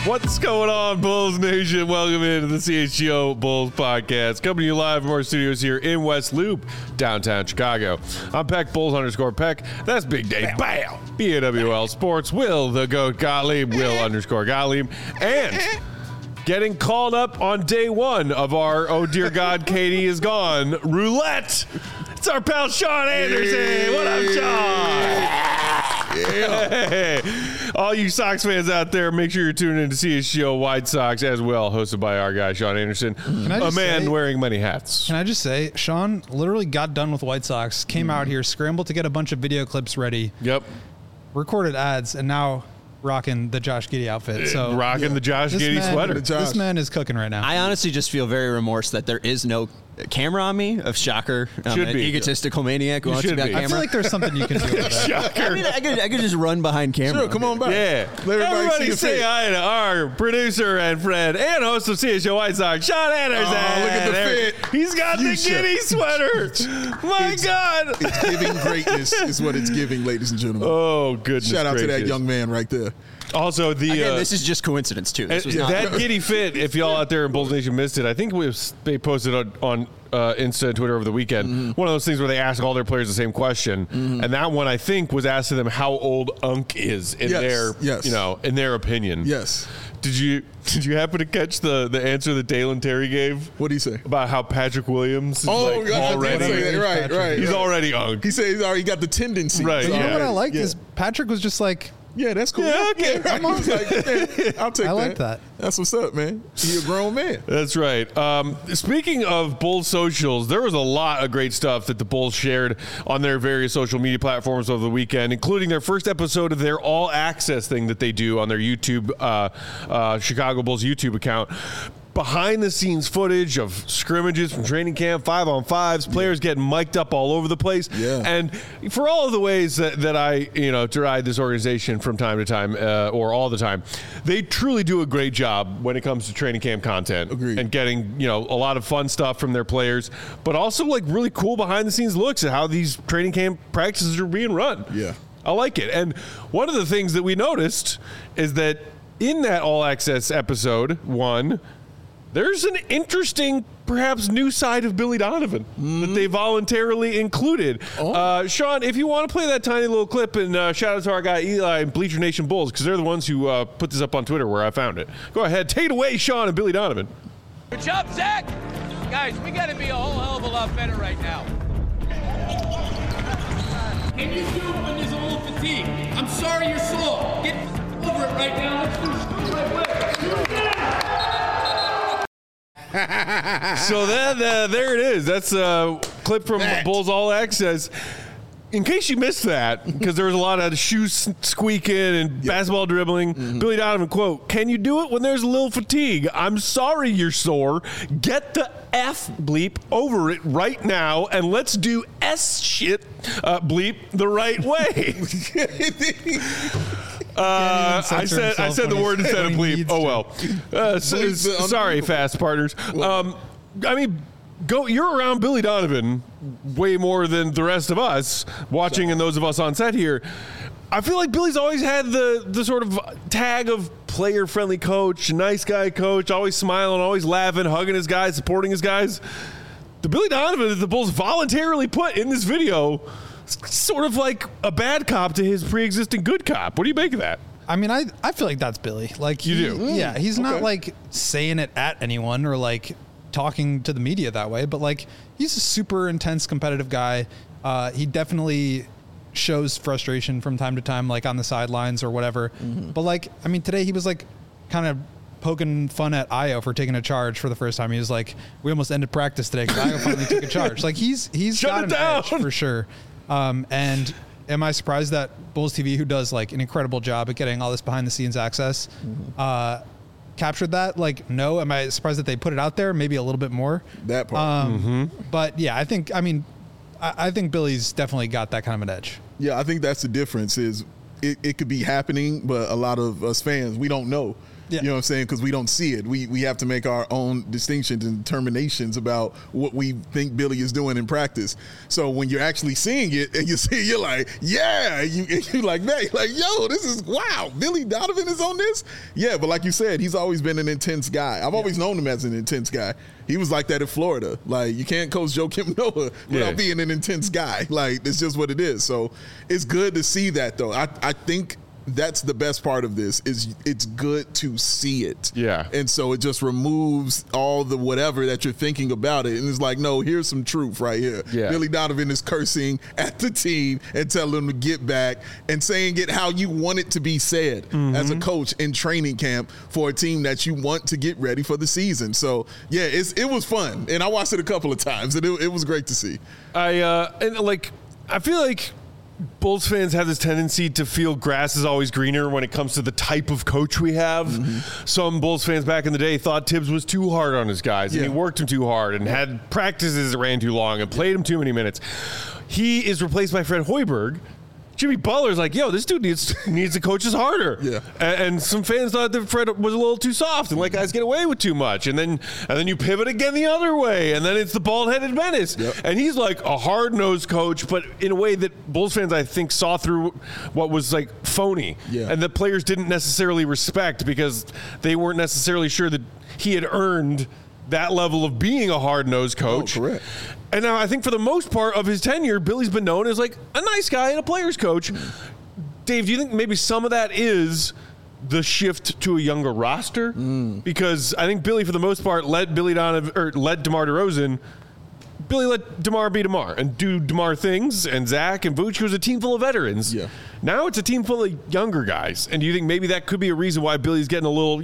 What's going on, Bulls Nation? Welcome into the CHGO Bulls Podcast. Coming to you live from our studios here in West Loop, downtown Chicago. I'm Peck, Bulls_Peck. That's Big Dave. Bam! BAWL Sports, Will the Goat Gottlieb, Will_Gottlieb. And getting called up on day one of our Oh Dear God, Katie is Gone roulette. It's our pal Sean Anderson. What up, Sean? Yeah. Hey. All you Sox fans out there, make sure you're tuning in to CHGO White Sox as well, hosted by our guy, Sean Anderson, a man wearing many hats. Can I just say, Sean literally got done with White Sox, came out here, scrambled to get a bunch of video clips ready. Yep. Recorded ads, and now rocking the Josh Giddey outfit. So rocking the Josh Giddey sweater. This man is cooking right now. I honestly just feel very remorse that there is no camera on me. Of shocker, Should an be egotistical maniac who wants to be on camera. I feel like there's something you can do with that. Shocker. I mean, I could just run behind camera. Sure, come on back. Yeah. Let Everybody see say hi to our producer and friend and host of CHGO White Sox, Sean Anderson. Oh, look at the fit. He's got Fuchsia. the Giddey sweater. My God. It's giving greatness is what it's giving, ladies and gentlemen. Oh, goodness Shout out to that gracious. young man right there. Also, Again, this is just coincidence too. This was not that Giddey fit, if y'all out there in Bulls Nation missed it, I think they posted on Insta and Twitter over the weekend. One of those things where they ask all their players the same question, and that one I think was asked to them how old Unk is in in their opinion. Yes. Did you happen to catch the answer that Dalen Terry gave? What did he say? About how Patrick Williams is God, already I did say that. Right. He's already Unk. He said he's already got the tendency. Right. You know what I like Yeah. is Patrick was just like, Yeah, that's cool. Yeah, okay. I'm always like, yeah, I'll take that. I like that. That's what's up, man. You're a grown man. That's right. Speaking of Bulls socials, there was a lot of great stuff that the Bulls shared on their various social media platforms over the weekend, including their first episode of their All Access thing that they do on their YouTube, Chicago Bulls YouTube account. Behind-the-scenes footage of scrimmages from training camp, 5-on-5s, players getting mic'd up all over the place. Yeah. And for all of the ways that I, deride this organization from time to time, or all the time, they truly do a great job when it comes to training camp content. Agreed. And getting, a lot of fun stuff from their players, but also like really cool behind-the-scenes looks at how these training camp practices are being run. Yeah. I like it. And one of the things that we noticed is that in that All Access episode 1, there's an interesting, perhaps new side of Billy Donovan that they voluntarily included. Sean, if you want to play that tiny little clip, and shout out to our guy Eli and Bleacher Nation Bulls, because they're the ones who put this up on Twitter where I found it. Go ahead. Take it away, Sean and Billy Donovan. Good job, Zach. Guys, we got to be a whole hell of a lot better right now. Can you do it when there's a little fatigue? I'm sorry you're sore. Get over it right now. Let's do it right way. So then, there it is. That's a clip from Bulls All Access. In case you missed that, because there was a lot of shoes squeaking and basketball dribbling, Billy Donovan, quote, "Can you do it when there's a little fatigue? I'm sorry you're sore. Get the F bleep over it right now, and let's do S shit bleep the right way." I said the word instead of bleep. Oh well. Sorry, fast partners. You're around Billy Donovan way more than the rest of us watching, and those of us on set here. I feel like Billy's always had the sort of tag of player-friendly coach, nice guy coach, always smiling, always laughing, hugging his guys, supporting his guys. The Billy Donovan that the Bulls voluntarily put in this video, sort of like a bad cop to his pre-existing good cop. What do you make of that? I mean, I feel like that's Billy. Like you do? Yeah, he's not like saying it at anyone or like talking to the media that way, but like he's a super intense competitive guy. He definitely shows frustration from time to time, like on the sidelines or whatever. But like, I mean, today he was like kind of poking fun at Ayo for taking a charge for the first time. He was like, "We almost ended practice today because Ayo finally took a charge." Like he's got an edge for sure. And am I surprised that Bulls TV, who does like an incredible job at getting all this behind the scenes access, captured that? Like, no. Am I surprised that they put it out there? Maybe a little bit more. That part. But yeah, I think Billy's definitely got that kind of an edge. Yeah, I think that's the difference is it could be happening, but a lot of us fans, we don't know. Yeah. You know what I'm saying? Because we don't see it. We have to make our own distinctions and determinations about what we think Billy is doing in practice. So when you're actually seeing it and you see it, you're like, yeah. You're like, man, you're like, yo, this is, wow, Billy Donovan is on this? Yeah, but like you said, he's always been an intense guy. I've always known him as an intense guy. He was like that in Florida. Like, you can't coach Joakim Noah without being an intense guy. Like, it's just what it is. So it's good to see that, though. I think that's the best part of this is it's good to see it. Yeah. And so it just removes all the whatever that you're thinking about it. And it's like, no, here's some truth right here. Yeah. Billy Donovan is cursing at the team and telling them to get back and saying it how you want it to be said as a coach in training camp for a team that you want to get ready for the season. So, yeah, it was fun. And I watched it a couple of times, and it was great to see. I feel like Bulls fans have this tendency to feel grass is always greener when it comes to the type of coach we have. Some Bulls fans back in the day thought Tibbs was too hard on his guys and he worked them too hard and had practices that ran too long and played them too many minutes. He is replaced by Fred Hoiberg. Jimmy Butler's like, yo, this dude needs to coach us harder. Yeah. And some fans thought that Fred was a little too soft and let guys get away with too much. And then you pivot again the other way, and then it's the bald-headed menace. Yep. And he's like a hard-nosed coach, but in a way that Bulls fans, I think, saw through what was like phony. Yeah. And the players didn't necessarily respect because they weren't necessarily sure that he had earned that level of being a hard-nosed coach. Oh, correct. And now I think for the most part of his tenure, Billy's been known as like a nice guy and a player's coach. Dave, do you think maybe some of that is the shift to a younger roster? Because I think Billy, for the most part, let DeMar DeRozan. Billy let DeMar be DeMar and do DeMar things, and Zach and Vooch was a team full of veterans. Yeah. Now it's a team full of younger guys. And do you think maybe that could be a reason why Billy's getting a little,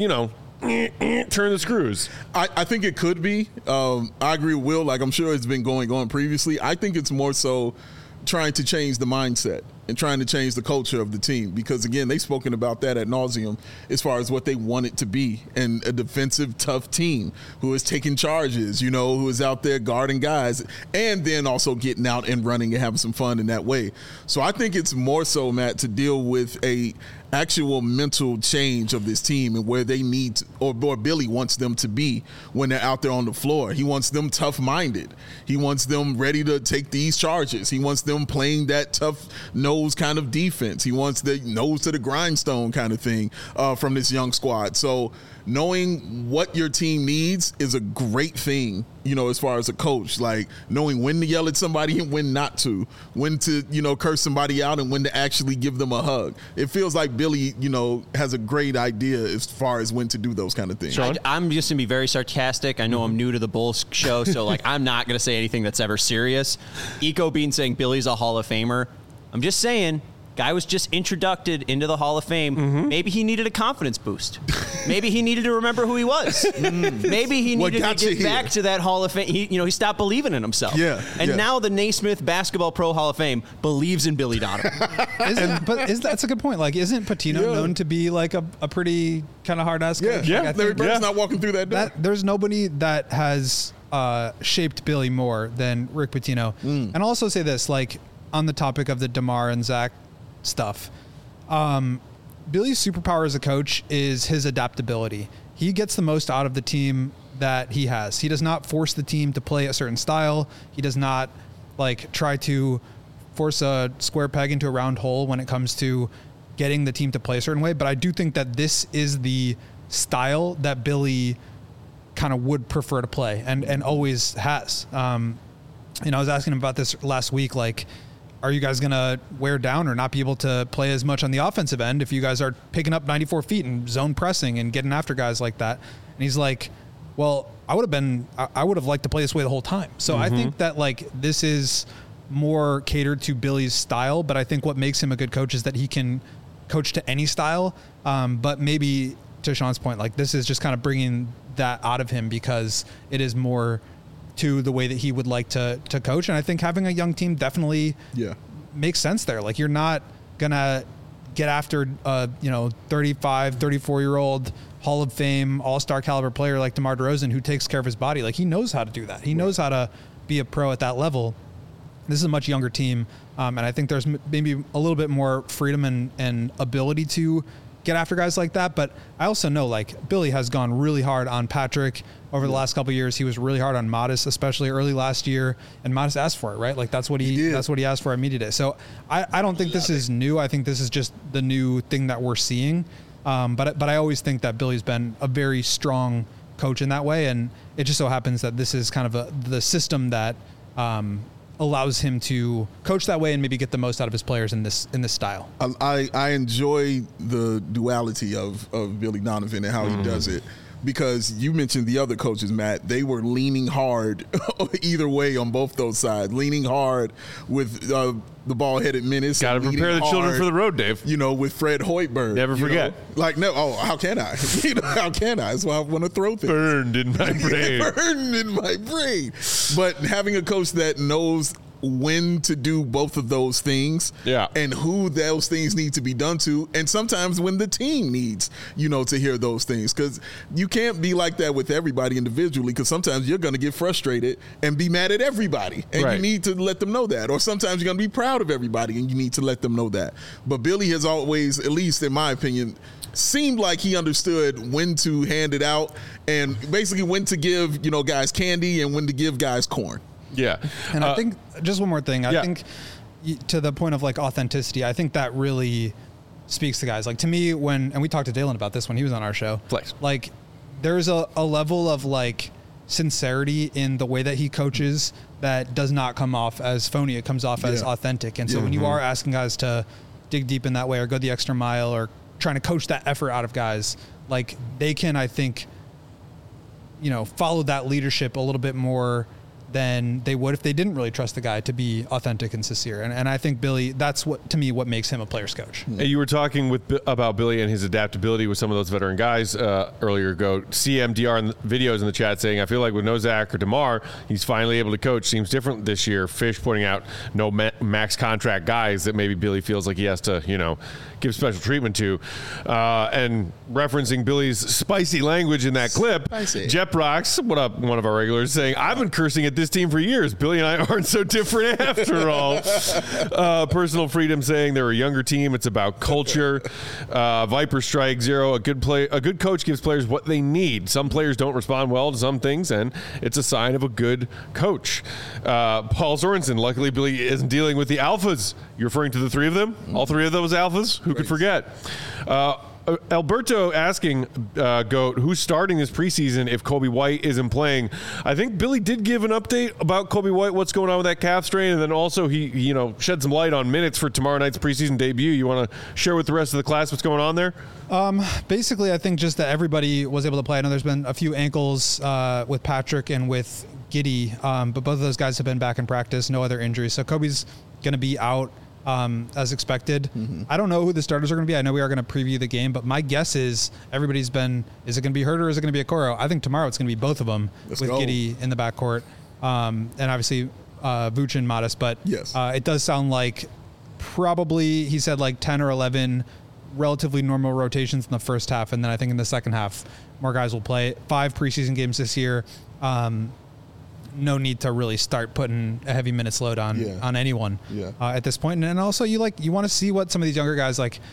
turn the screws? I think it could be. I agree with Will. Like, I'm sure it's been going on previously. I think it's more so trying to change the mindset and trying to change the culture of the team. Because, again, they've spoken about that ad nauseum as far as what they want it to be. And a defensive, tough team who is taking charges, who is out there guarding guys and then also getting out and running and having some fun in that way. So I think it's more so, Matt, to deal with a actual mental change of this team and where they need to, or Billy wants them to be when they're out there on the floor. He wants them tough-minded. He wants them ready to take these charges. He wants them playing that tough nose kind of defense. He wants the nose to the grindstone kind of thing from this young squad. So knowing what your team needs is a great thing, as far as a coach, like knowing when to yell at somebody and when not to, when to, curse somebody out and when to actually give them a hug. It feels like Billy, has a great idea as far as when to do those kind of things. I'm just going to be very sarcastic. I know I'm new to the Bulls show, so I'm not going to say anything that's ever serious. Eco Bean saying Billy's a Hall of Famer. I'm just saying, guy was just introduced into the Hall of Fame. Maybe he needed a confidence boost. Maybe he needed to remember who he was. Maybe he needed to get back to that Hall of Fame. He stopped believing in himself. Yeah. And now the Naismith Basketball Pro Hall of Fame believes in Billy Donovan. That's a good point. Like, isn't Patino known to be like a pretty kind of hard-ass coach? Yeah. Larry Bird's not walking through that door. There's nobody that has shaped Billy more than Rick Pitino. And I'll also say this, like, on the topic of the DeMar and Zach stuff, Billy's superpower as a coach is his adaptability. He gets the most out of the team that he has. He does not force the team to play a certain style. He does not try to force a square peg into a round hole when it comes to getting the team to play a certain way. But I do think that this is the style that Billy kind of would prefer to play and always has. I was asking him about this last week, are you guys going to wear down or not be able to play as much on the offensive end if you guys are picking up 94 feet and zone pressing and getting after guys like that? And he's like, well, I would have liked to play this way the whole time. So I think that this is more catered to Billy's style, but I think what makes him a good coach is that he can coach to any style. But maybe to Sean's point, this is just kind of bringing that out of him because it is more to the way that he would like to coach. And I think having a young team definitely makes sense there. You're not going to get after 35, 34-year-old Hall of Fame, all-star caliber player like DeMar DeRozan who takes care of his body. He knows how to do that. He knows how to be a pro at that level. This is a much younger team. And I think there's maybe a little bit more freedom and ability to get after guys like that. But I also know like Billy has gone really hard on Patrick over the last couple of years. He was really hard on Modest, especially early last year, and Modest asked for it, right? Like that's what he asked for at media day. So I don't think this is new. I think this is just the new thing that we're seeing. But I always think that Billy's been a very strong coach in that way, and it just so happens that this is kind of the system that allows him to coach that way and maybe get the most out of his players in this style. I enjoy the duality of Billy Donovan and how he does it, because you mentioned the other coaches, Matt. They were leaning hard either way on both those sides, leaning hard with the ball-headed menace. Got to prepare the children for the road, Dave. You know, with Fred Hoiberg. Never forget. How can I? How can I? That's why I want to throw things. Burned in my brain. Burned in my brain. But having a coach that knows when to do both of those things, and who those things need to be done to, and sometimes when the team needs, to hear those things, because you can't be like that with everybody individually, because sometimes you're going to get frustrated and be mad at everybody, and you need to let them know that, or sometimes you're going to be proud of everybody and you need to let them know that. But Billy has always, at least in my opinion, seemed like he understood when to hand it out and basically when to give guys candy and when to give guys corn. Yeah. And I think just one more thing. I think to the point of like authenticity, I think that really speaks to guys. Like to me, and we talked to Dalen about this when he was on our show, like there's a level of like sincerity in the way that he coaches that does not come off as phony. It comes off as authentic. And so when you are asking guys to dig deep in that way or go the extra mile or trying to coach that effort out of guys, like they can, I think, follow that leadership a little bit more than they would if they didn't really trust the guy to be authentic and sincere. And I think Billy, that's what makes him a player's coach. You were talking about Billy and his adaptability with some of those veteran guys earlier ago. CMDR in the videos in the chat saying, I feel like with no Zach or DeMar, he's finally able to coach. Seems different this year. Fish pointing out no max contract guys that maybe Billy feels like he has to, give special treatment to. And referencing Billy's spicy language in that clip, Jet Rocks, what up, one of our regulars, saying, I've been cursing at this team for years. Billy and I aren't so different after all. Personal Freedom saying they're a younger team. It's about culture. Viper Strike Zero, a good coach gives players what they need. Some players don't respond well to some things, and it's a sign of a good coach. Paul Sorensen, luckily Billy isn't dealing with the alphas. You're referring to the three of them? All three of those alphas? Who could forget? Alberto asking Goat, who's starting this preseason if Kobe White isn't playing? I think Billy did give an update about Kobe White, what's going on with that calf strain, and then also he shed some light on minutes for tomorrow night's preseason debut. You want to share with the rest of the class what's going on there? Basically, I think just that everybody was able to play. I know there's been a few ankles with Patrick and with Giddey, but both of those guys have been back in practice, no other injuries. So Kobe's going to be out as expected. I don't know who the starters are going to be. I know we are going to preview the game, but my guess is is it going to be Hurt or is it going to be Okoro? I think tomorrow it's going to be both of them with Giddey in the backcourt. And obviously Vooch and Modest, but it does sound like probably he said like 10 or 11 relatively normal rotations in the first half. And then I think in the second half, more guys will play. 5 preseason games this year. No need to really start putting a heavy minutes load on anyone at this point. And also you want to see what some of these younger guys, like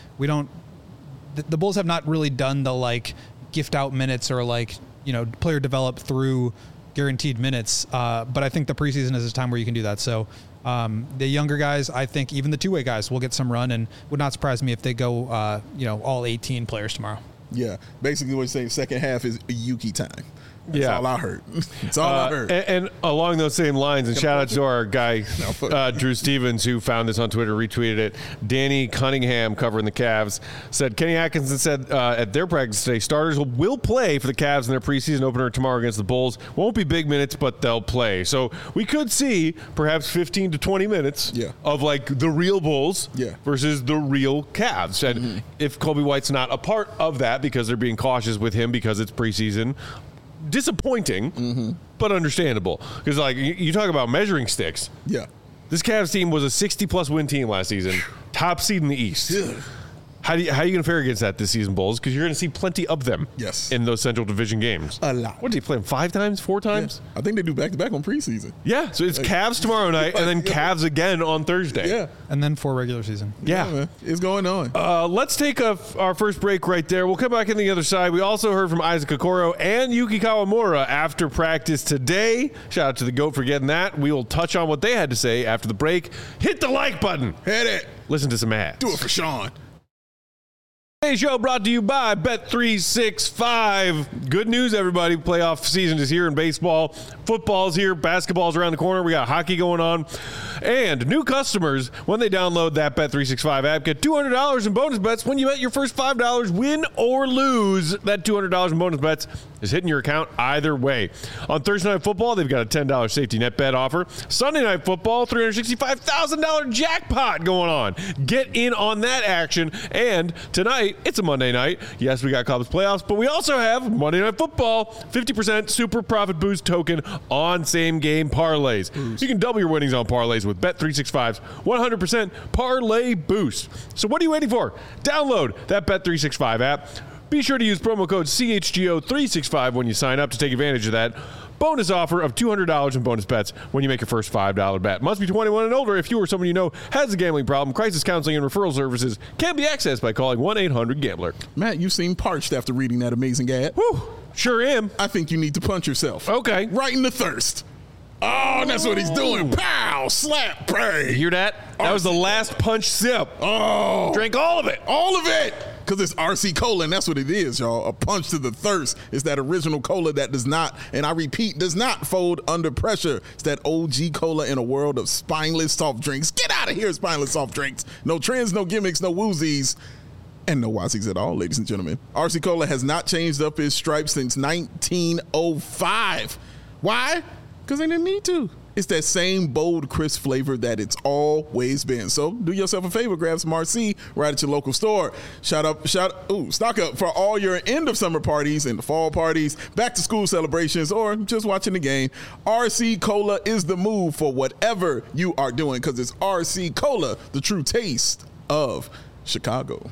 the Bulls have not really done the like gift out minutes or like, player develop through guaranteed minutes. But I think the preseason is a time where you can do that. So the younger guys, I think even the two-way guys will get some run, and would not surprise me if they go, all 18 players tomorrow. Yeah. Basically what you're saying, second half is Yuki time. That's all I heard. That's all I heard. And along those same lines, and shout out to our guy, Drew Stevens, who found this on Twitter, retweeted it. Danny Cunningham, covering the Cavs, said, Kenny Atkinson said at their practice today, starters will play for the Cavs in their preseason opener tomorrow against the Bulls. Won't be big minutes, but they'll play. So we could see perhaps 15 to 20 minutes of like the real Bulls versus the real Cavs. And if Kobe White's not a part of that because they're being cautious with him because it's preseason, disappointing, but understandable. Because like you talk about measuring sticks. Yeah, this Cavs team was a 60-plus win team last season, top seed in the East. How are you going to fare against that this season, Bulls? Because you're going to see plenty of them. Yes. In those Central Division games. A lot. What did he play them 5 times, 4 times? I think they do back-to-back on preseason. Yeah. So it's Cavs tomorrow night and then Cavs again on Thursday. Yeah. And then 4 regular season. Yeah. Man. It's going on. Let's take our first break right there. We'll come back on the other side. We also heard from Isaac Okoro and Yuki Kawamura after practice today. Shout out to the GOAT for getting that. We will touch on what they had to say after the break. Hit the like button. Hit it. Listen to some ads. Do it for Sean. Today's show brought to you by Bet365. Good news, everybody. Playoff season is here in baseball. Football's here. Basketball's around the corner. We got hockey going on. And new customers, when they download that Bet365 app, get $200 in bonus bets when you bet your first $5. Win or lose, that $200 in bonus bets is hitting your account either way. On Thursday Night Football, they've got a $10 safety net bet offer. Sunday Night Football, $365,000 jackpot going on. Get in on that action. And tonight, it's a Monday night. Yes, we got Cubs playoffs, but we also have Monday Night Football, 50% super profit boost token on same game parlays. You can double your winnings on parlays with Bet365's 100% parlay boost. So what are you waiting for? Download that Bet365 app. Be sure to use promo code CHGO365 when you sign up to take advantage of that bonus offer of $200 in bonus bets when you make your first $5 bet. Must be 21 and older. If you or someone you know has a gambling problem, crisis counseling and referral services can be accessed by calling 1-800-GAMBLER. Matt, you seem parched after reading that amazing ad. Whew, sure am. I think you need to punch yourself. Okay. Right in the thirst. Oh, that's what he's doing. Pow! Slap! Bang! You hear that? That was the last punch sip. Oh! Drank all of it. All of it! Because it's RC Cola, and that's what it is, y'all. A punch to the thirst. It's that original cola that does not, and I repeat, does not fold under pressure. It's that OG cola in a world of spineless soft drinks. Get out of here, spineless soft drinks. No trends, no gimmicks, no woozies. And no Wazies at all, ladies and gentlemen. RC Cola has not changed up its stripes since 1905. Why? Because they didn't need to. It's that same bold, crisp flavor that it's always been. So do yourself a favor, grab some RC right at your local store. Stock up for all your end of summer parties and the fall parties, back to school celebrations, or just watching the game. RC Cola is the move for whatever you are doing, because it's RC Cola, the true taste of Chicago.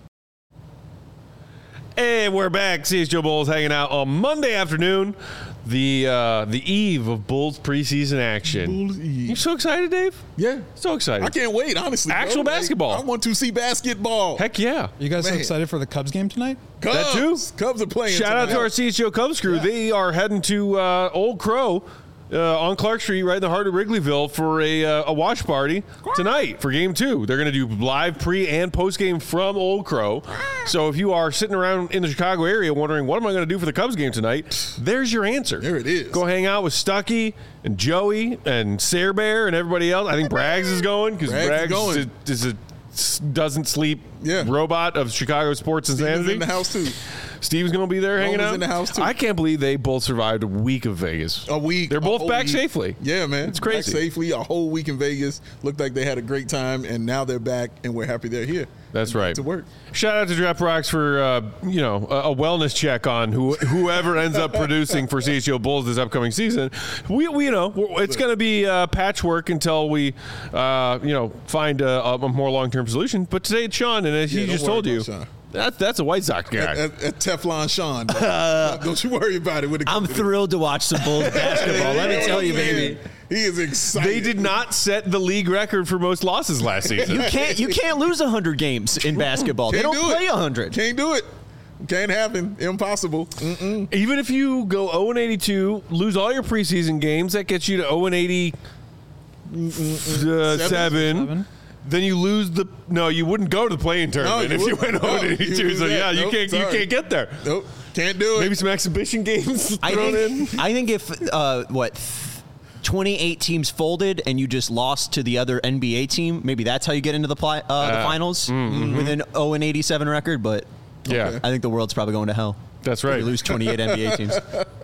And we're back. CHGO Bulls hanging out on Monday afternoon, the eve of Bulls preseason action. Bulls Eve. You so excited, Dave? Yeah. So excited. I can't wait, honestly. Actual bro. basketball. I want to see basketball. Heck yeah. You guys Man. excited for the Cubs game tonight? Cubs. That too. Cubs are playing Shout out tonight. to our CHGO Cubs crew. Yeah. They are heading to Old Crow on Clark Street, right in the heart of Wrigleyville, for a watch party tonight for Game 2. They're going to do live pre and post game from Old Crow. So if you are sitting around in the Chicago area wondering what am I going to do for the Cubs game tonight, there's your answer. There it is. Go hang out with Stuckey and Joey and Sayre Bear and everybody else. I think Braggs is going because Braggs is a doesn't sleep robot of Chicago sports insanity. Steven's in the house too. Steve's going to be there hanging out. in the house too. I can't believe they both survived a week of Vegas. A week. They're both back week. safely. Yeah, man. It's crazy. Back safely, a whole week in Vegas. Looked like they had a great time, and now they're back, and we're happy they're here. That's right. To work. Shout out to Draft Rocks for a wellness check on whoever ends up producing for CHGO Bulls this upcoming season. We it's going to be patchwork until we find a more long term solution. But today it's Sean, and as he just told you, that's a White Sox guy. At Teflon Sean. Don't you worry about it. I'm thrilled to watch some Bulls basketball. Let me tell you, baby. He is excited. They did not set the league record for most losses last season. You can't lose 100 games in basketball. They don't play 100. Can't do it. Can't happen. Impossible. Mm-mm. Even if you go 0-82, lose all your preseason games, that gets you to 0-87. Then you lose you wouldn't go to the play-in tournament if you went 0-82. So you can't get there. Nope. Can't do it. Maybe some exhibition games I thrown in. think if 28 teams folded and you just lost to the other NBA team, maybe that's how you get into the finals with an 0-87 record. But Yeah. I think the world's probably going to hell. That's right. You lose 28 NBA teams.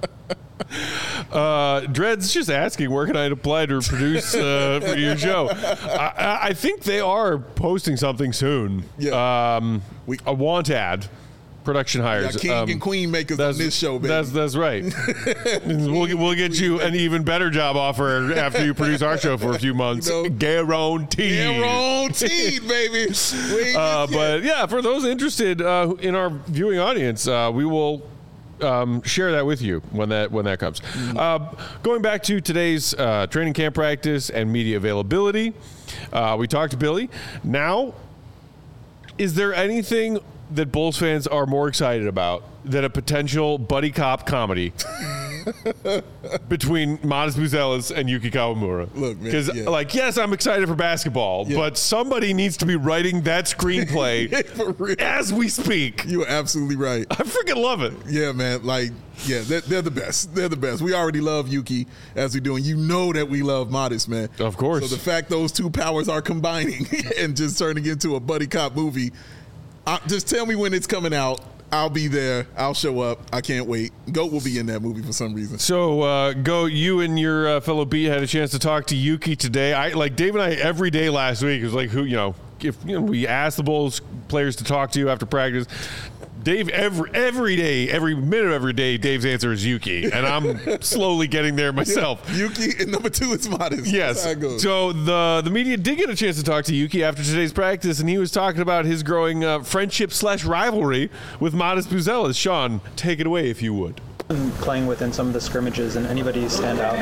Dred's just asking, where can I apply to produce for your show? I think they are posting something soon. Yeah. A want ad production hires. King and queen makers on this show, baby. That's right. we'll get you an even better job offer after you produce our show for a few months. Guaranteed. Guaranteed, baby. But yeah, for those interested in our viewing audience, we will share that with you when that comes. Going back to today's training camp practice and media availability, we talked to Billy. Now, is there anything that Bulls fans are more excited about than a potential buddy cop comedy between Modest Buzelis and Yuki Kawamura? Look, man, because yes, I'm excited for basketball, but somebody needs to be writing that screenplay For real. as we speak. You're absolutely right. I freaking love it. Yeah, man. They're the best. They're the best. We already love Yuki as we do, and you know that we love Modest, man. Of course. So the fact those two powers are combining and just turning into a buddy cop movie, just tell me when it's coming out. I'll be there. I'll show up. I can't wait. GOAT will be in that movie for some reason. So, GOAT, you and your fellow beat had a chance to talk to Yuki today. Dave and I every day last week was like, if we asked the Bulls players to talk to you after practice. Dave, every day, every minute of every day, Dave's answer is Yuki, and I'm slowly getting there myself. Yeah, Yuki, and number 2 is Modest. Yes. That's how it goes. So the media did get a chance to talk to Yuki after today's practice, and he was talking about his growing friendship/rivalry with Modest Buzelis. Sean, take it away if you would. Playing within some of the scrimmages, and anybody stand out?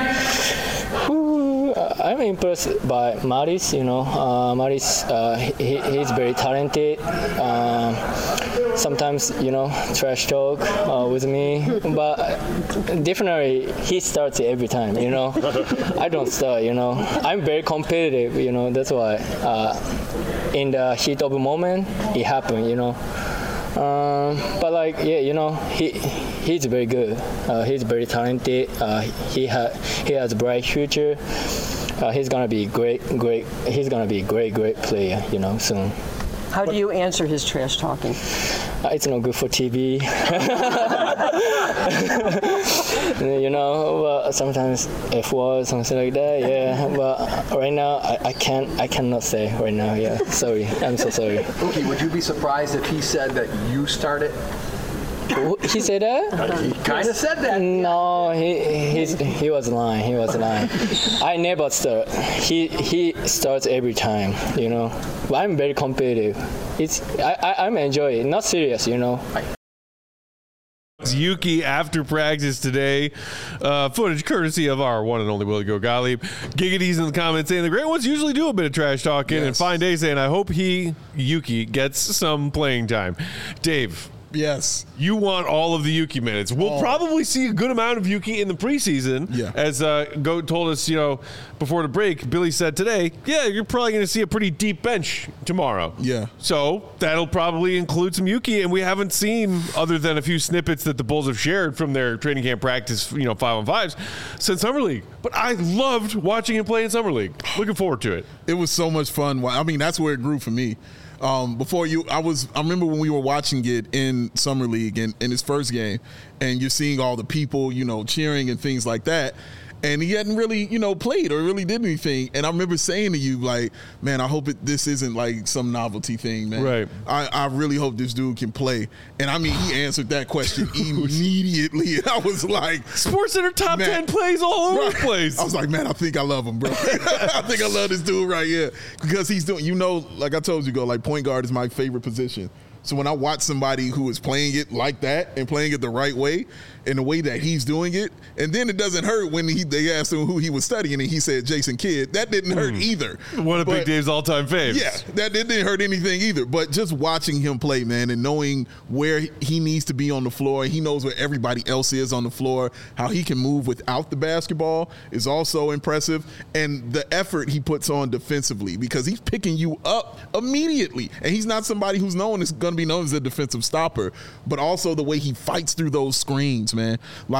I'm impressed by Maris. Maris, he's very talented. Sometimes, trash talk with me, but definitely he starts every time. I don't start. I'm very competitive. That's why in the heat of the moment it happened. But he's very good. He's very talented. He has a bright future. He's gonna be great. He's gonna be a great player. Soon. How do you answer his trash talking? It's not good for TV. But sometimes F word, something like that. Yeah, but right now I cannot say right now. Yeah, sorry. I'm so sorry. Okay, would you be surprised if he said that you started? He said that? He kind of said that. No, he was lying. He was lying. I never start. He starts every time. But I'm very competitive. I'm enjoying it. Not serious. Yuki after practice today. Footage courtesy of our one and only Willie Gottlieb. Giggity's in the comments saying the great ones usually do a bit of trash talking, and Fine Day saying I hope Yuki gets some playing time. Dave. Yes. You want all of the Yuki minutes. We'll probably see a good amount of Yuki in the preseason. Yeah. As Goat told us, before the break, Billy said today, you're probably going to see a pretty deep bench tomorrow. Yeah. So that'll probably include some Yuki, and we haven't seen, other than a few snippets that the Bulls have shared from their training camp practice, 5-on-5s, since Summer League. But I loved watching him play in Summer League. Looking forward to it. It was so much fun. I mean, that's where it grew for me. I remember when we were watching it in Summer League and in his first game, and you're seeing all the people, cheering and things like that. And he hadn't really, played or really did anything. And I remember saying to you, man, I hope this isn't like some novelty thing, man. Right. I really hope this dude can play. And I mean, he answered that question immediately. And I was like, SportsCenter top 10 plays all over the place. I was like, man, I think I love him, bro. I think I love this dude right here. Because he's doing, like I told you, point guard is my favorite position. So when I watch somebody who is playing it like that and playing it the right way, in the way that he's doing it, and then it doesn't hurt when they asked him who he was studying and he said Jason Kidd. That didn't hurt either. One of Big Dave's all-time faves. Yeah, that didn't hurt anything either. But just watching him play, man, and knowing where he needs to be on the floor, he knows where everybody else is on the floor, how he can move without the basketball is also impressive. And the effort he puts on defensively, because he's picking you up immediately. And he's not somebody who's going to be known as a defensive stopper, but also the way he fights through those screens, man.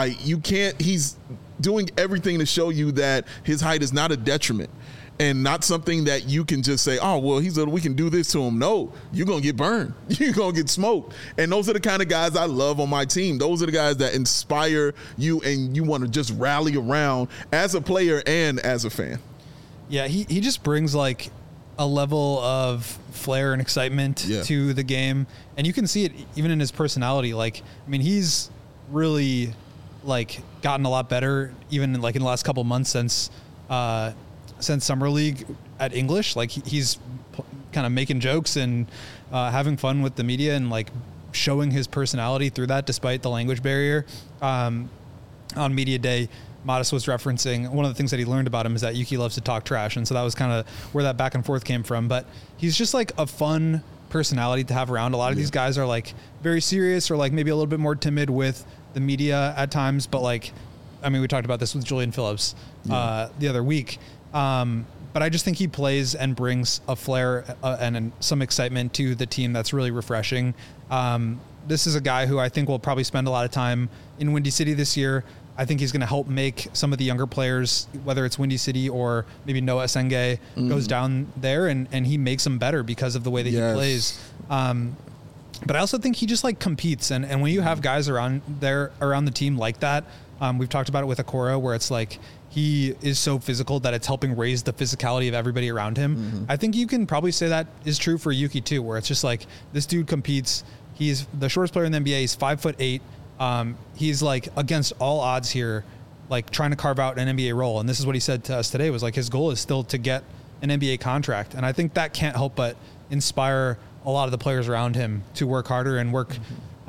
He's doing everything to show you that his height is not a detriment and not something that you can just say, oh, well, we can do this to him. No, you're going to get burned. You're going to get smoked. And those are the kind of guys I love on my team. Those are the guys that inspire you and you want to just rally around as a player and as a fan. Yeah, he just brings a level of flair and excitement to the game, and you can see it even in his personality. Like, I mean, he's really like gotten a lot better, even like in the last couple months since Summer League at English. Like, he's kind of making jokes and having fun with the media and like showing his personality through that, despite the language barrier. On media day, Modest was referencing one of the things that he learned about him is that Yuki loves to talk trash. And so that was kind of where that back and forth came from. But he's just like a fun personality to have around. A lot of these guys are like very serious or like maybe a little bit more timid with the media at times. But like, I mean, we talked about this with Julian Phillips the other week. But I just think he plays and brings a flair and some excitement to the team that's really refreshing. This is a guy who I think will probably spend a lot of time in Windy City this year. I think he's going to help make some of the younger players, whether it's Windy City or maybe Noah Senge, goes down there and he makes them better because of the way that he plays. But I also think he just like competes. And when you have guys around the team like that, we've talked about it with Okoro, where it's like he is so physical that it's helping raise the physicality of everybody around him. I think you can probably say that is true for Yuki too, where it's just like this dude competes. He's the shortest player in the NBA. He's 5'8". He's like against all odds here, like trying to carve out an NBA role. And this is what he said to us today was like his goal is still to get an NBA contract. And I think that can't help but inspire a lot of the players around him to work harder and work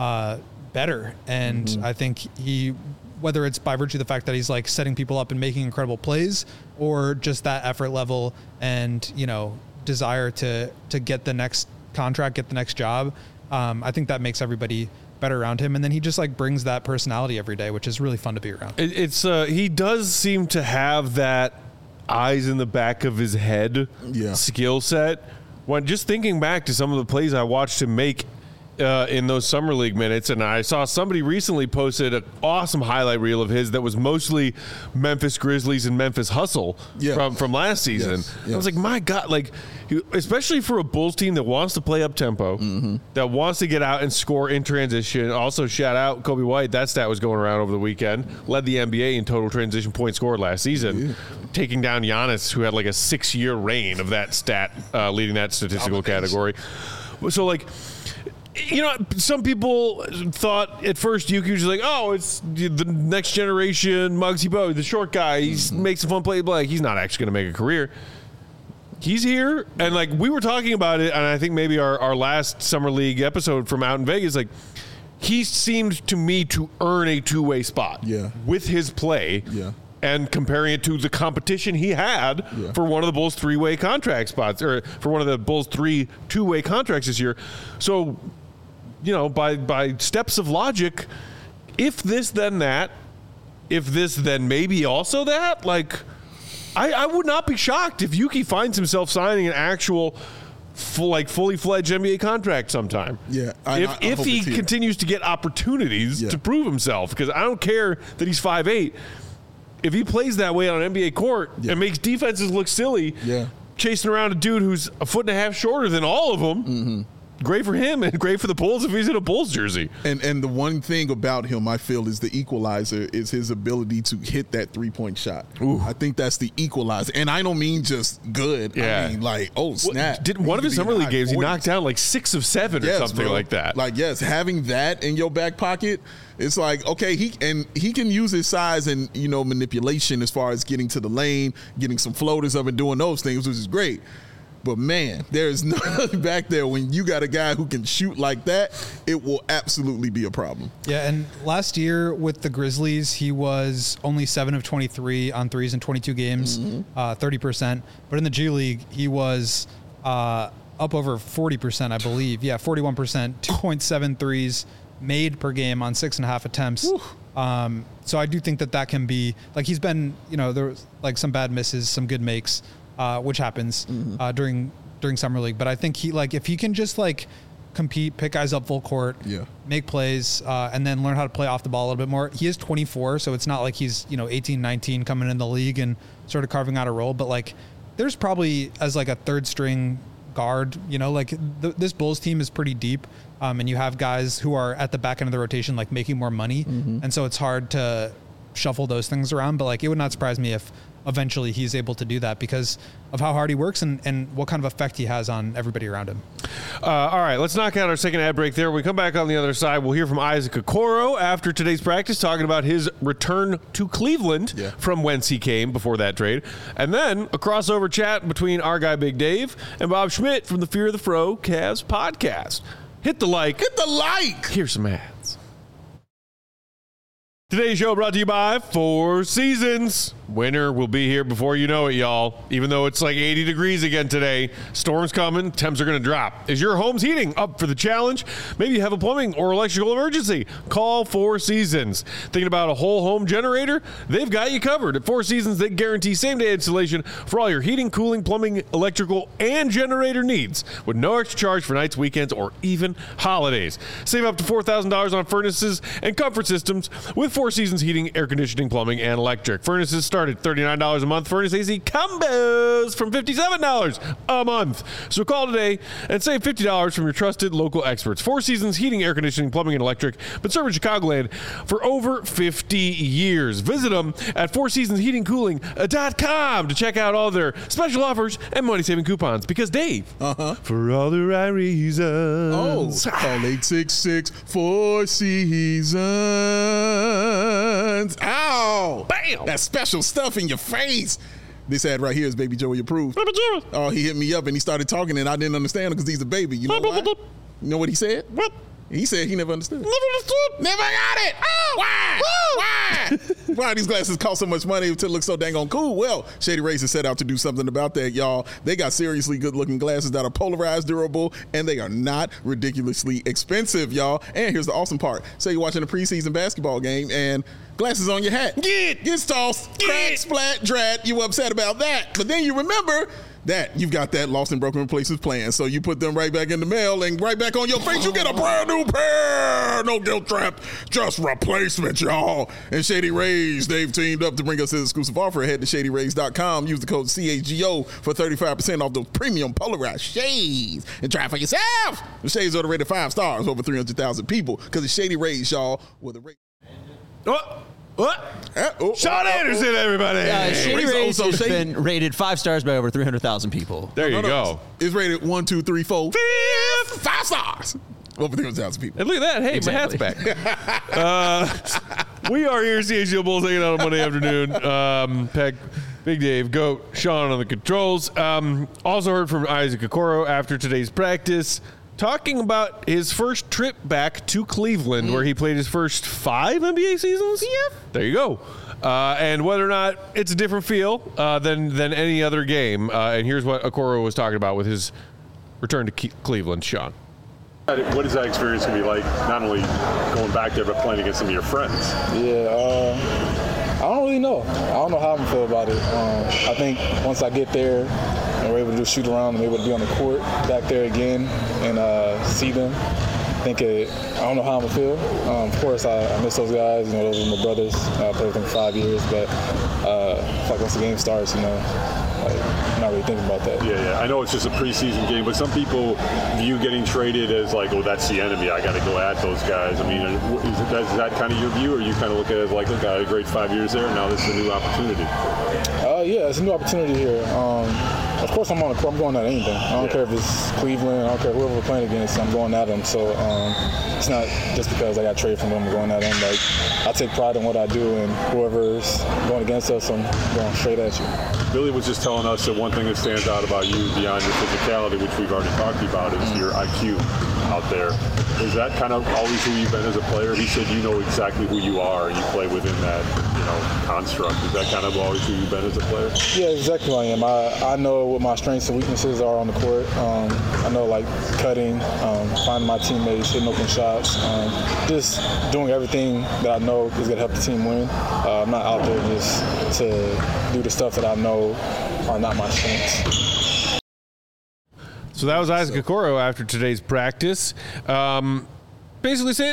better. And I think whether it's by virtue of the fact that he's like setting people up and making incredible plays or just that effort level and, you know, desire to get the next contract, get the next job. I think that makes everybody better around him. And then he just like brings that personality every day, which is really fun to be around. It's he does seem to have that eyes in the back of his head skill set. When just thinking back to some of the plays I watched him make in those Summer League minutes, and I saw somebody recently posted an awesome highlight reel of his that was mostly Memphis Grizzlies and Memphis Hustle from last season. I was like, my God, like, especially for a Bulls team that wants to play up tempo, that wants to get out and score in transition. Also, shout out Kobe White. That stat was going around over the weekend. Led the NBA in total transition points scored last season, taking down Giannis, who had like a 6-year reign of that stat, leading that statistical category. So, like, you know, some people thought at first Yuki was like, oh, it's the next generation Muggsy Bogues, the short guy. He makes a fun play. Like, he's not actually going to make a career. He's here. And, like, we were talking about it, and I think maybe our last Summer League episode from out in Vegas, like, he seemed to me to earn a two-way spot with his play. And comparing it to the competition he had for one of the Bulls' three-way contract spots, or for one of the Bulls' 3 two-way contracts this year. So, you know, by steps of logic, if this, then that, if this, then maybe also that, like, I would not be shocked if Yuki finds himself signing an actual fully fledged NBA contract sometime. If he continues to get opportunities to prove himself, because I don't care that he's 5'8". If he plays that way on an NBA court and makes defenses look silly, chasing around a dude who's a foot and a half shorter than all of them, great for him and great for the Bulls if he's in a Bulls jersey. And the one thing about him, I feel, is the equalizer is his ability to hit that three-point shot. I think that's the equalizer. And I don't mean just good. I mean, like, oh, snap. One of his Summer League games, he knocked down like 6 of 7 or something like that. Like, having that in your back pocket, it's like, okay, he can use his size and, you know, manipulation as far as getting to the lane, getting some floaters up and doing those things, which is great. But, man, there's nothing back there. When you got a guy who can shoot like that, it will absolutely be a problem. Yeah, and last year with the Grizzlies, he was only 7 of 23 on threes in 22 games, 30%. But in the G League, he was up over 40%, I believe. Yeah, 41%, 2.7 threes made per game on 6.5 attempts. So I do think that can be, like, he's been, you know, there was like some bad misses, some good makes, which happens during Summer League. But I think he, like, if he can just like compete, pick guys up full court, make plays, and then learn how to play off the ball a little bit more. He is 24, so it's not like he's, you know, 18, 19 coming in the league and sort of carving out a role. But like, there's probably as like a third string guard, you know, like this Bulls team is pretty deep. And you have guys who are at the back end of the rotation, like making more money. And so it's hard to shuffle those things around. But like, it would not surprise me if eventually he's able to do that because of how hard he works and what kind of effect he has on everybody around him. All right, let's knock out our second ad break there. When we come back on the other side, we'll hear from Isaac Okoro after today's practice, talking about his return to Cleveland from whence he came before that trade. And then a crossover chat between our guy Big Dave and Bob Schmidt from the Fear of the Fro Cavs podcast. Hit the like. Hit the like. Here's some ads. Today's show brought to you by Four Seasons. Winter will be here before you know it, y'all. Even though it's like 80 degrees again today, storms coming, temps are going to drop. Is your home's heating up for the challenge? Maybe you have a plumbing or electrical emergency. Call Four Seasons. Thinking about a whole home generator? They've got you covered. At Four Seasons, they guarantee same-day installation for all your heating, cooling, plumbing, electrical, and generator needs with no extra charge for nights, weekends, or even holidays. Save up to $4,000 on furnaces and comfort systems with Four Seasons heating, air conditioning, plumbing, and electric. Furnaces start at $39 a month. Furnace AC combos from $57 a month. So call today and save $50 from your trusted local experts. Four Seasons heating, air conditioning, plumbing, and electric, but serving Chicagoland for over 50 years. Visit them at fourseasonsheatingcooling.com to check out all their special offers and money-saving coupons. Because Dave, for all the right reasons. Call 866 Four Seasons. Ow! Bam! That special stuff in your face. This ad right here is Baby Joey approved. Baby Joey. Oh, he hit me up and he started talking and I didn't understand him because he's a baby. You know why? You know what he said? What? He said he never understood. Never understood. Never got it. Oh, why? Why? Why these glasses cost so much money to look so dang on cool? Well, Shady Rays has set out to do something about that, y'all. They got seriously good-looking glasses that are polarized, durable, and they are not ridiculously expensive, y'all. And here's the awesome part. Say you're watching a preseason basketball game and glasses on your hat. Gets tossed, crack, splat, drat. You upset about that. But then you remember that you've got that lost and broken replacements plan. So you put them right back in the mail and right back on your face. You get a brand new pair. No guilt trap, just replacement, y'all. And Shady Rays, they've teamed up to bring us this exclusive offer. Head to shadyrays.com. Use the code CHGO for 35% off those premium polarized shades. And try it for yourself. The shades are rated 5 stars, over 300,000 people. Because it's Shady Rays, y'all, with a rate. Sean Anderson, everybody. Shady Rays has been rated 5 stars by over 300,000 people. There you go. It's rated 1, 2, 3, 4, 5 stars. Over 300,000 people. And look at that. Hey, Exactly. my hat's back. We are here, CHGO Bulls, hanging out on Monday afternoon. Peck, Big Dave, Goat, Sean on the controls. Also heard from Isaac Okoro after today's practice, talking about his first trip back to Cleveland, where he played his first 5 NBA seasons. Yeah. There you go. And whether or not it's a different feel than any other game. And here's what Okoro was talking about with his return to Cleveland. Sean. What is that experience going to be like, not only going back there, but playing against some of your friends? Yeah, I don't really know. I don't know how I'm going to feel about it. I think once I get there and we're able to do shoot around and able to be on the court back there again and see them, I don't know how I'm going to feel. Of course, I miss those guys. You know, those are my brothers. I played with them for 5 years, but like once the game starts, you know, I'm not really thinking about that. Yeah. I know it's just a preseason game, but some people view getting traded as like, oh, that's the enemy. I got to go at those guys. I mean, is that kind of your view, or you kind of look at it as like, look, I had a great 5 years there, and now this is a new opportunity? Yeah, it's a new opportunity here. Of course, I'm on the court. I'm going at anything. I don't care if it's Cleveland. I don't care whoever we're playing against. I'm going at them. So it's not just because I got traded from them. I'm going at them. Like, I take pride in what I do, and whoever's going against us, I'm going straight at you. Billy was just telling us that one thing that stands out about you beyond your physicality, which we've already talked about, is your IQ out there. Is that kind of always who you've been as a player? He said you know exactly who you are and you play within that, construct. Is that kind of always who you've been as a player? Yeah, exactly who I am. I know what my strengths and weaknesses are on the court. I know, like, cutting, finding my teammates, hitting open shots, just doing everything that I know is going to help the team win. I'm not out there just to do the stuff that I know are not my strengths. So that was Isaac Okoro after today's practice. Basically saying,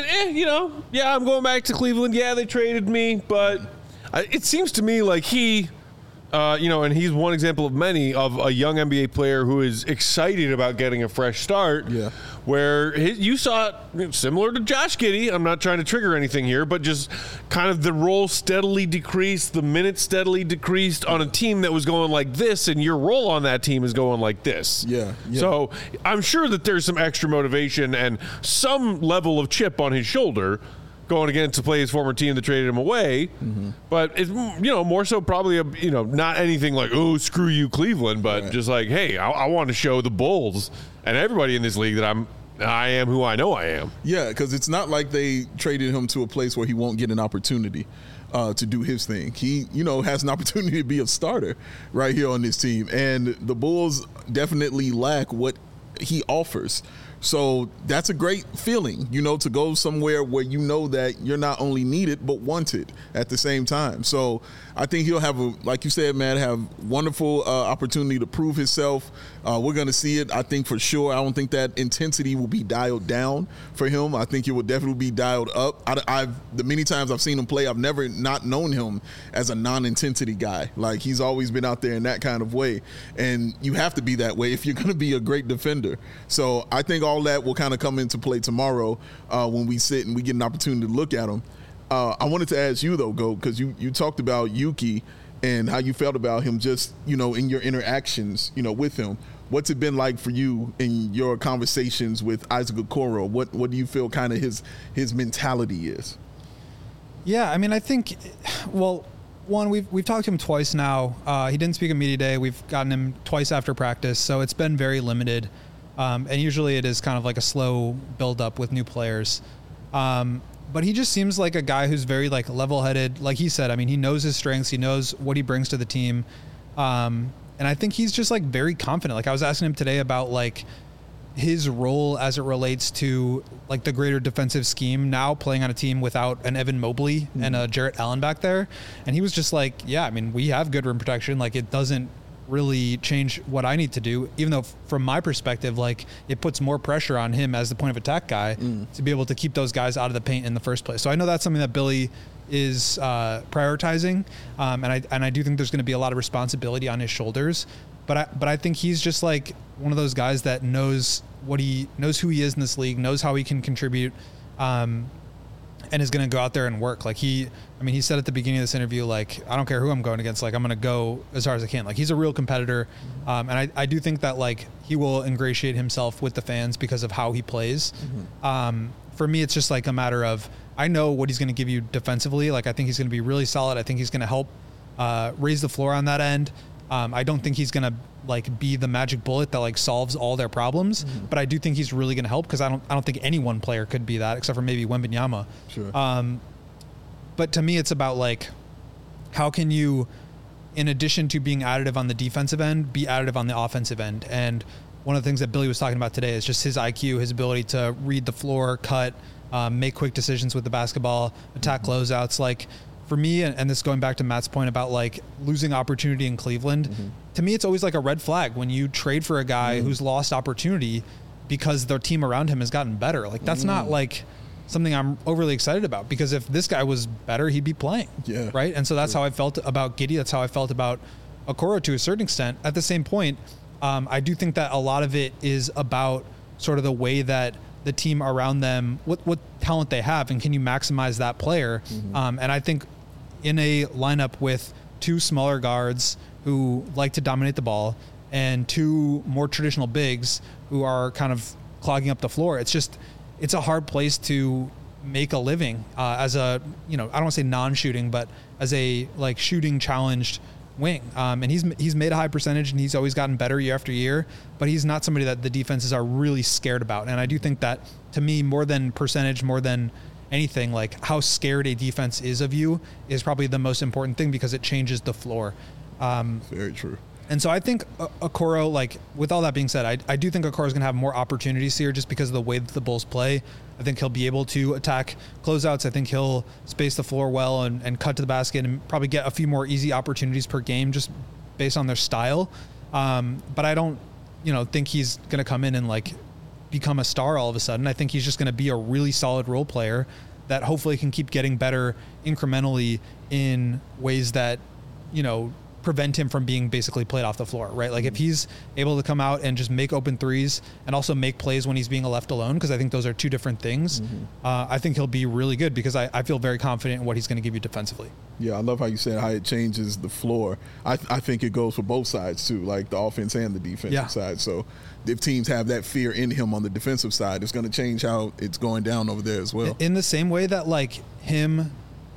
I'm going back to Cleveland. Yeah, they traded me, but it seems to me like he and he's one example of many of a young NBA player who is excited about getting a fresh start. Yeah. Where you saw it similar to Josh Giddey. I'm not trying to trigger anything here, but just kind of the role steadily decreased, the minutes steadily decreased on a team that was going like this, and your role on that team is going like this. Yeah. So I'm sure that there's some extra motivation and some level of chip on his shoulder going again to play his former team that traded him away. Mm-hmm. But it's, more so probably, not anything like, oh, screw you, Cleveland, but just like, hey, I want to show the Bulls and everybody in this league that I am who I know I am. Yeah, because it's not like they traded him to a place where he won't get an opportunity to do his thing. He, has an opportunity to be a starter right here on this team. And the Bulls definitely lack what he offers. So that's a great feeling, to go somewhere where you know that you're not only needed but wanted at the same time. So I think he'll have, like you said, Matt, have wonderful opportunity to prove himself. We're going to see it, I think, for sure. I don't think that intensity will be dialed down for him. I think it will definitely be dialed up. The many times I've seen him play, I've never not known him as a non-intensity guy. Like, he's always been out there in that kind of way. And you have to be that way if you're going to be a great defender. So I think all that will kind of come into play tomorrow when we sit and we get an opportunity to look at him. I wanted to ask you, though, Go, because you talked about Yuki and how you felt about him just, in your interactions, with him. What's it been like for you in your conversations with Isaac Okoro? What do you feel kind of his mentality is? Yeah, I mean, I think, one, we've talked to him twice now. He didn't speak at media day. We've gotten him twice after practice, so it's been very limited. And usually it is kind of like a slow build up with new players. But he just seems like a guy who's very level-headed. Like he said, I mean, he knows his strengths. He knows what he brings to the team. And I think he's just very confident. Like, I was asking him today about his role as it relates to the greater defensive scheme now, playing on a team without an Evan Mobley and a Jarrett Allen back there. And he was just yeah, I mean, we have good rim protection. It doesn't really change what I need to do, even though from my perspective, it puts more pressure on him as the point of attack guy to be able to keep those guys out of the paint in the first place. So I know that's something that Billy is prioritizing, and I do think there's going to be a lot of responsibility on his shoulders. But I think he's just one of those guys that knows who he is in this league, knows how he can contribute, and is going to go out there and work. He said at the beginning of this interview, I don't care who I'm going against, I'm going to go as hard as I can. He's a real competitor. And I do think that he will ingratiate himself with the fans because of how he plays. For me, it's just a matter of, I know what he's going to give you defensively. I think he's going to be really solid. I think he's going to help raise the floor on that end. I don't think he's going to be the magic bullet that solves all their problems, but I do think he's really going to help, because I don't think any one player could be that except for maybe Wembanyama. Sure. But to me, it's about how can you, in addition to being additive on the defensive end, be additive on the offensive end. And one of the things that Billy was talking about today is just his IQ, his ability to read the floor, cut, make quick decisions with the basketball, attack closeouts. For me, and this going back to Matt's point about losing opportunity in Cleveland, to me, it's always a red flag when you trade for a guy who's lost opportunity because their team around him has gotten better. That's not something I'm overly excited about, because if this guy was better, he'd be playing. Yeah. Right. And so that's how I felt about Giddey. That's how I felt about Okoro to a certain extent. At the same point, I do think that a lot of it is about sort of the way that the team around them, what talent they have, and can you maximize that player? And I think in a lineup with two smaller guards who like to dominate the ball and two more traditional bigs who are kind of clogging up the floor, it's a hard place to make a living as a, I don't want to say non-shooting, but as a shooting challenged wing. And he's made a high percentage, and he's always gotten better year after year, but he's not somebody that the defenses are really scared about. And I do think that, to me, more than percentage, more than anything, how scared a defense is of you is probably the most important thing, because it changes the floor. Very true. And so I think Okoro, with all that being said, I do think Okoro's going to have more opportunities here just because of the way that the Bulls play. I think he'll be able to attack closeouts. I think he'll space the floor well and cut to the basket and probably get a few more easy opportunities per game just based on their style. But I don't, think he's going to come in and become a star all of a sudden. I think he's just going to be a really solid role player that hopefully can keep getting better incrementally in ways that, prevent him from being basically played off the floor, right? Like if he's able to come out and just make open threes and also make plays when he's being left alone, because I think those are two different things, I think he'll be really good because I feel very confident in what he's going to give you defensively. Yeah, I love how you said how it changes the floor. I think it goes for both sides too, like the offense and the defensive side. So if teams have that fear in him on the defensive side, it's going to change how it's going down over there as well. In the same way that like him,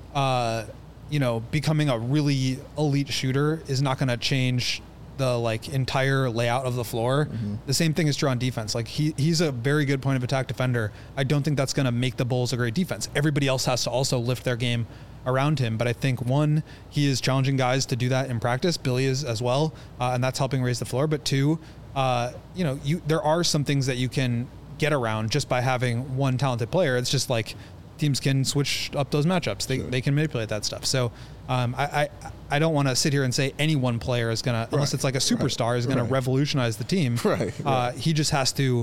becoming a really elite shooter is not going to change the like entire layout of the floor. The same thing is true on defense. Like he's a very good point of attack defender. I don't think that's going to make the Bulls a great defense. Everybody else has to also lift their game around him. But I think one, he is challenging guys to do that in practice. Billy is as well. And that's helping raise the floor. But two, there are some things that you can get around just by having one talented player. It's just like teams can switch up those matchups. They can manipulate that stuff. So I don't want to sit here and say any one player is going to, unless it's like a superstar, is going to revolutionize the team. He just has to,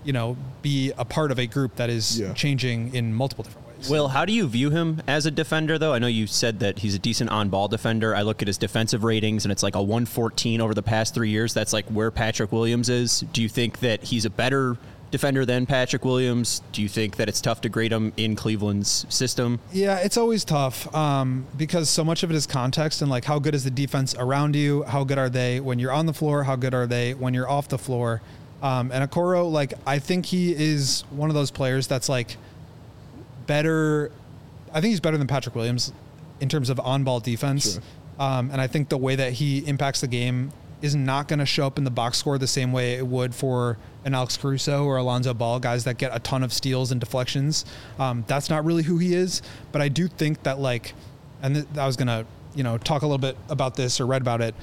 be a part of a group that is changing in multiple different ways. Will, how do you view him as a defender, though? I know you said that he's a decent on-ball defender. I look at his defensive ratings, and it's like a 114 over the past 3 years. That's like where Patrick Williams is. Do you think that he's a better defender than Patrick Williams? Do you think that it's tough to grade him in Cleveland's system? Yeah, it's always tough because so much of it is context and like how good is the defense around you? How good are they when you're on the floor? How good are they when you're off the floor? And Okoro, like I think he is one of those players that's like better. I think he's better than Patrick Williams in terms of on-ball defense. And I think the way that he impacts the game is not going to show up in the box score the same way it would for an Alex Caruso or Alonzo Ball, guys that get a ton of steals and deflections. That's not really who he is, but I do think that like, and I was going to, talk a little bit about this or read about it.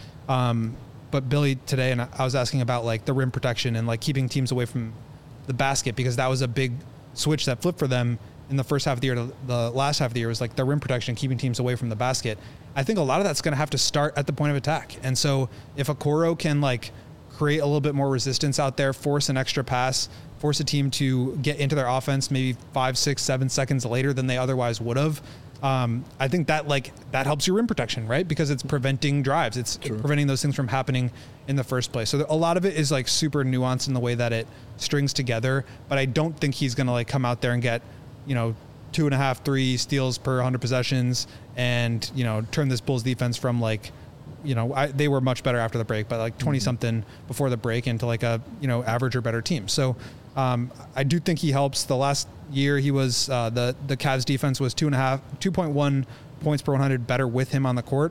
But Billy today, and I was asking about like the rim protection and like keeping teams away from the basket, because that was a big switch that flipped for them in the first half of the year to the last half of the year, was like the rim protection, keeping teams away from the basket. I think a lot of that's going to have to start at the point of attack. And so if Okoro can like create a little bit more resistance out there, force an extra pass, force a team to get into their offense maybe 5, 6, 7 seconds later than they otherwise would have, I think that like that helps your rim protection, right? Because it's preventing drives. It's preventing those things from happening in the first place. So a lot of it is like super nuanced in the way that it strings together, but I don't think he's going to like come out there and get, 2.5, 3 steals per 100 possessions and, turn this Bulls defense from like, they were much better after the break, but like 20 something before the break into like a, average or better team. So I do think he helps. The last year he was, the Cavs defense was 2.1 points per 100 better with him on the court.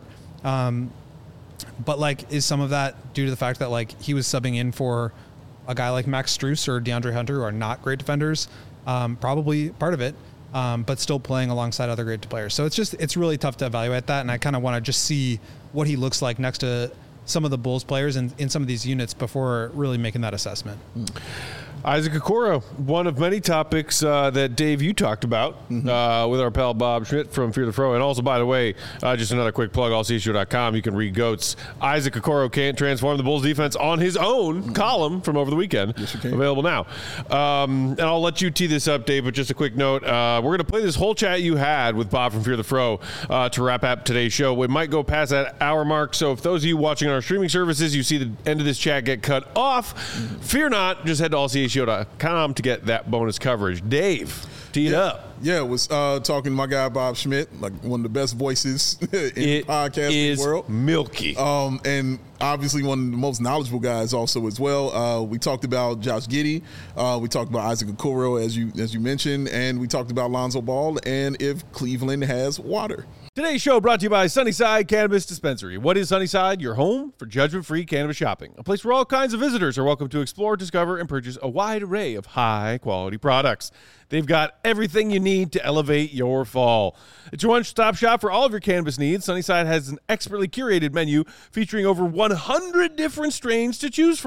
But like, is some of that due to the fact that like he was subbing in for a guy like Max Strus or DeAndre Hunter, who are not great defenders? Probably part of it, but still playing alongside other great players. So it's really tough to evaluate that. And I kind of want to just see what he looks like next to some of the Bulls players and in some of these units before really making that assessment. Isaac Okoro, one of many topics that, Dave, you talked about with our pal Bob Schmidt from Fear the Fro. And also, by the way, just another quick plug, allcshow.com. You can read Goats. Isaac Okoro can't transform the Bulls defense on his own column from over the weekend. Yes, you can. Available now. And I'll let you tee this up, Dave, but just a quick note. We're going to play this whole chat you had with Bob from Fear the Fro to wrap up today's show. We might go past that hour mark. So if those of you watching on our streaming services, you see the end of this chat get cut off, fear not. Just head to allcshow.com to get that bonus coverage. Dave, tee it up. Yeah, was talking to my guy Bob Schmidt, like one of the best voices in the podcasting world. Milky. And obviously one of the most knowledgeable guys also as well. We talked about Josh Giddey. We talked about Isaac Okoro, as you mentioned, and we talked about Lonzo Ball and if Cleveland has water. Today's show brought to you by Sunnyside Cannabis Dispensary. What is Sunnyside? Your home for judgment-free cannabis shopping. A place where all kinds of visitors are welcome to explore, discover, and purchase a wide array of high-quality products. They've got everything you need to elevate your fall. It's your one-stop shop for all of your cannabis needs. Sunnyside has an expertly curated menu featuring over 100 different strains to choose from.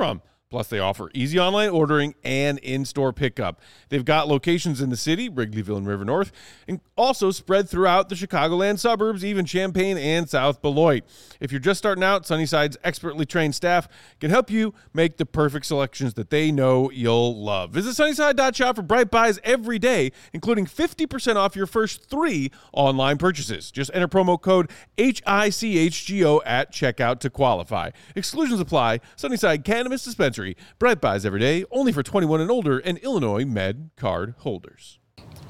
Plus, they offer easy online ordering and in-store pickup. They've got locations in the city, Wrigleyville and River North, and also spread throughout the Chicagoland suburbs, even Champaign and South Beloit. If you're just starting out, Sunnyside's expertly trained staff can help you make the perfect selections that they know you'll love. Visit Sunnyside.shop for Bright Buys every day, including 50% off your first 3 online purchases. Just enter promo code HICHGO at checkout to qualify. Exclusions apply. Sunnyside Cannabis Dispensary. Bright Buys every day, only for 21 and older and Illinois Med card holders.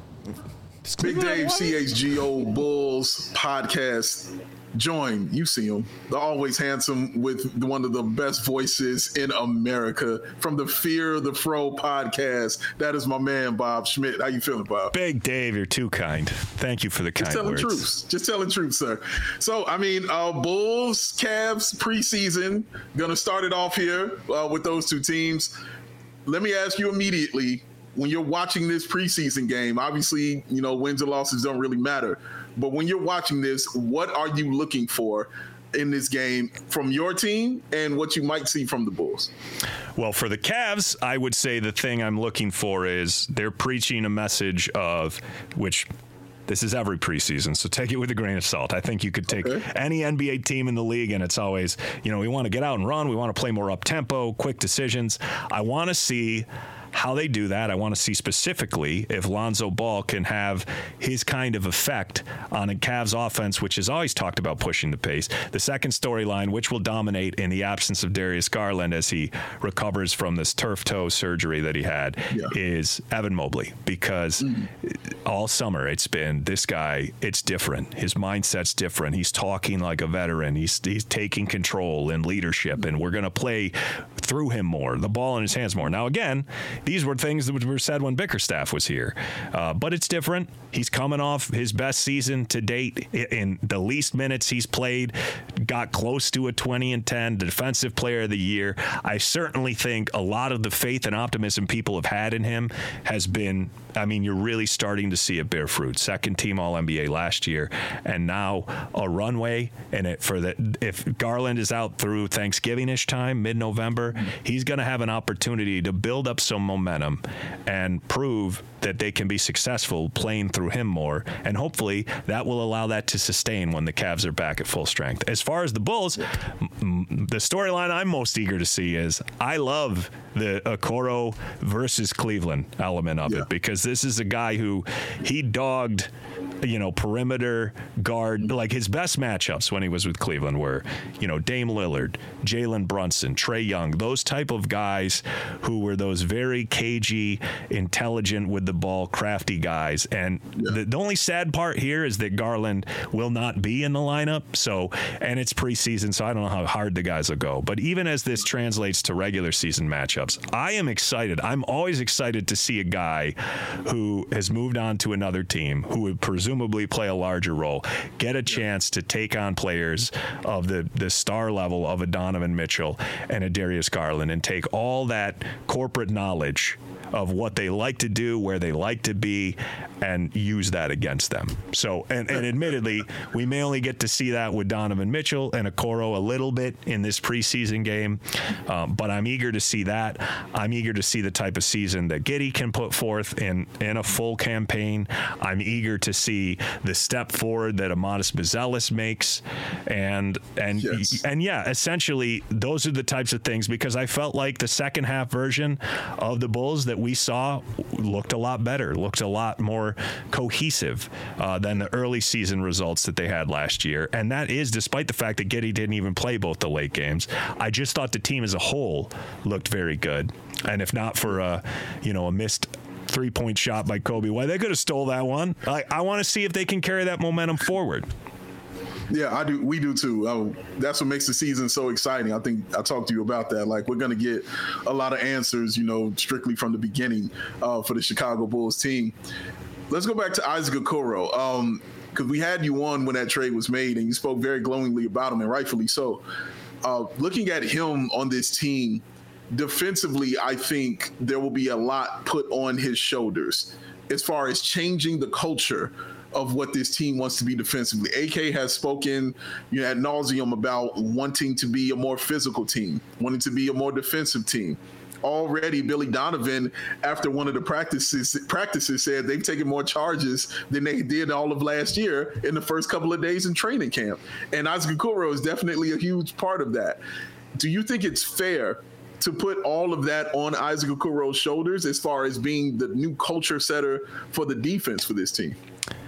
Big Dave CHGO Bulls podcast. Join, you see him, the always handsome with one of the best voices in America from the Fear the Fro podcast. That is my man, Bob Schmidt. How you feeling, Bob? Big Dave, you're too kind. Thank you for the kind words. Just telling truth, sir. So, I mean, Bulls, Cavs preseason, going to start it off here with those two teams. Let me ask you immediately, when you're watching this preseason game, obviously, you know, wins and losses don't really matter. But when you're watching this, what are you looking for in this game from your team and what you might see from the Bulls? Well, for the Cavs, I would say the thing I'm looking for is they're preaching a message of which this is every preseason, so take it with a grain of salt. I think you could take any NBA team in the league, and it's always, you know, we want to get out and run. We want to play more up-tempo, quick decisions. I want to see how they do that. I want to see specifically if Lonzo Ball can have his kind of effect on a Cavs offense, which is always talked about pushing the pace. The second storyline, which will dominate in the absence of Darius Garland as he recovers from this turf toe surgery that he had, is Evan Mobley, because all summer it's been this guy, it's different. His mindset's different. He's talking like a veteran. He's taking control and leadership, and we're going to play through him more, the ball in his hands more. Now, again, these were things that were said when Bickerstaff was here. But it's different. He's coming off his best season to date in the least minutes he's played, got close to a 20-10, defensive player of the year. I certainly think a lot of the faith and optimism people have had in him has been, I mean, you're really starting to see it bear fruit. Second team All-NBA last year, and now a runway. And if Garland is out through Thanksgiving-ish time, mid-November, he's going to have an opportunity to build up some momentum and prove that they can be successful playing through him more. And hopefully that will allow that to sustain when the Cavs are back at full strength. As far as the Bulls, the storyline I'm most eager to see is I love the Okoro versus Cleveland element of it, because this is a guy who he dogged, you know, perimeter guard. Like his best matchups when he was with Cleveland were, you know, Dame Lillard, Jalen Brunson, Trae Young, those type of guys who were those very cagey, intelligent with the ball, crafty guys. And the only sad part here is that Garland will not be in the lineup. So, and it's preseason, so I don't know how hard the guys will go. But even as this translates to regular season matchups, I am excited. I'm always excited to see a guy who has moved on to another team, who would presumably play a larger role, get a chance to take on players of the star level of a Donovan Mitchell and a Darius Garland, and take all that corporate knowledge of what they like to do, where they like to be, and use that against them. So, and admittedly, we may only get to see that with Donovan Mitchell and Okoro a little bit in this preseason game, but I'm eager to see that. I'm eager to see the type of season that Giddey can put forth in a full campaign. I'm eager to see the step forward that Amadis Buzelis makes, and yeah, essentially those are the types of things, because I felt like the second half version of the Bulls that we saw looked a lot better, looked a lot more cohesive than the early season results that they had last year. And that is despite the fact that Giddey didn't even play both the late games. I just thought the team as a whole looked very good. And if not for a missed 3-point shot by Kobe White, they could have stole that one. I want to see if they can carry that momentum forward. Yeah, I do. We do too. That's what makes the season so exciting. I think I talked to you about that. Like, we're going to get a lot of answers, strictly from the beginning for the Chicago Bulls team. Let's go back to Isaac Okoro, because we had you on when that trade was made, and you spoke very glowingly about him, and rightfully so. Looking at him on this team, defensively, I think there will be a lot put on his shoulders as far as changing the culture of what this team wants to be defensively. AK has spoken ad nauseum about wanting to be a more physical team, wanting to be a more defensive team. Already, Billy Donovan, after one of the practices said they've taken more charges than they did all of last year in the first couple of days in training camp. And Isaac Okoro is definitely a huge part of that. Do you think it's fair to put all of that on Isaac Okoro's shoulders as far as being the new culture setter for the defense for this team?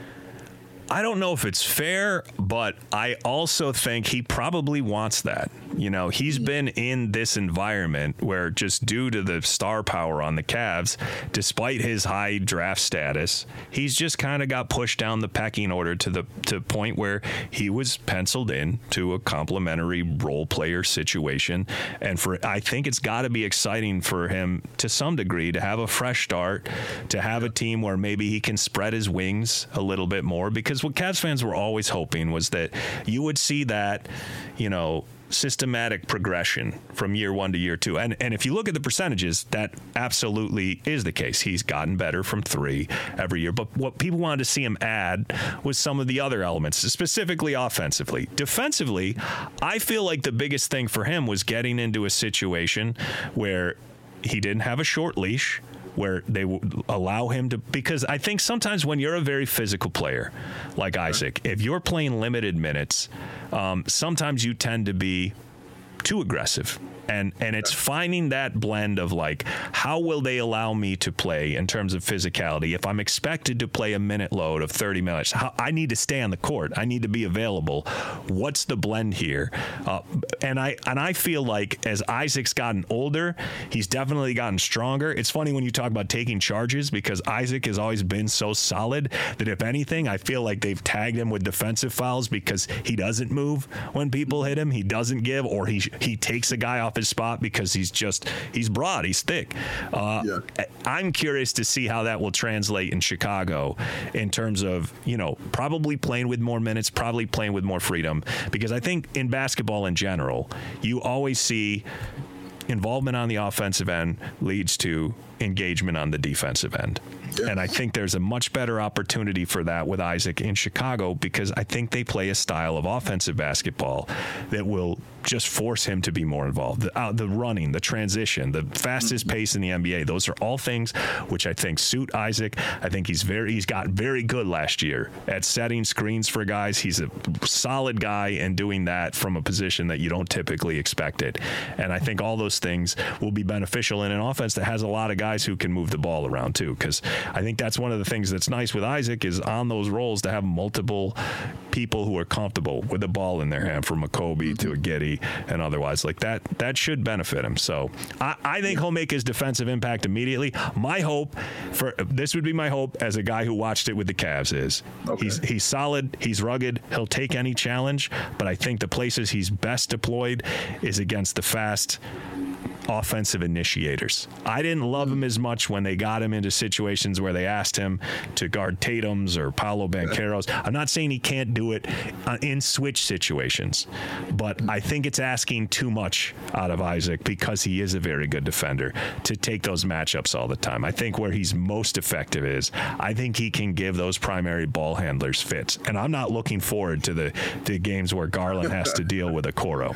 I don't know if it's fair, but I also think he probably wants that. He's been in this environment where just due to the star power on the Cavs, despite his high draft status, he's just kind of got pushed down the pecking order to the point where he was penciled in to a complimentary role player situation. And I think it's got to be exciting for him to some degree to have a fresh start, to have a team where maybe he can spread his wings a little bit more, because what Cavs fans were always hoping was that you would see that, systematic progression from year one to year two. And if you look at the percentages, that absolutely is the case. He's gotten better from three every year. But what people wanted to see him add was some of the other elements, specifically offensively. Defensively, I feel like the biggest thing for him was getting into a situation where he didn't have a short leash, where they would allow him to, because I think sometimes when you're a very physical player like Isaac, if you're playing limited minutes, sometimes you tend to be too aggressive. And it's finding that blend of like, how will they allow me to play in terms of physicality? If I'm expected to play a minute load of 30 minutes, I need to stay on the court. I need to be available. What's the blend here? And I feel like as Isaac's gotten older, he's definitely gotten stronger. It's funny when you talk about taking charges, because Isaac has always been so solid that if anything, I feel like they've tagged him with defensive fouls because he doesn't move when people hit him. He doesn't give, or he takes a guy off his spot because he's broad, he's thick. I'm curious to see how that will translate in Chicago in terms of, probably playing with more minutes, probably playing with more freedom, because I think in basketball in general, you always see involvement on the offensive end leads to engagement on the defensive end. And I think there's a much better opportunity for that with Isaac in Chicago, because I think they play a style of offensive basketball that will just force him to be more involved. The running, the transition, the fastest pace in the NBA, those are all things which I think suit Isaac. I think he's got very good last year at setting screens for guys. He's a solid guy and doing that from a position that you don't typically expect it. And I think all those things will be beneficial in an offense that has a lot of guys who can move the ball around too, because I think that's one of the things that's nice with Isaac is on those roles to have multiple people who are comfortable with the ball in their hand, from a Kobe to a Giddey and otherwise. Like that should benefit him. So I think he'll make his defensive impact immediately. My hope this would be my hope as a guy who watched it with the Cavs is he's solid, he's rugged, he'll take any challenge, but I think the places he's best deployed is against the fast offensive initiators. I didn't love him as much when they got him into situations where they asked him to guard Tatum's or Paolo Banchero's. I'm not saying he can't do it in switch situations, but I think it's asking too much out of Isaac, because he is a very good defender, to take those matchups all the time. I think where he's most effective is I think he can give those primary ball handlers fits. And I'm not looking forward to the games where Garland has to deal with Okoro.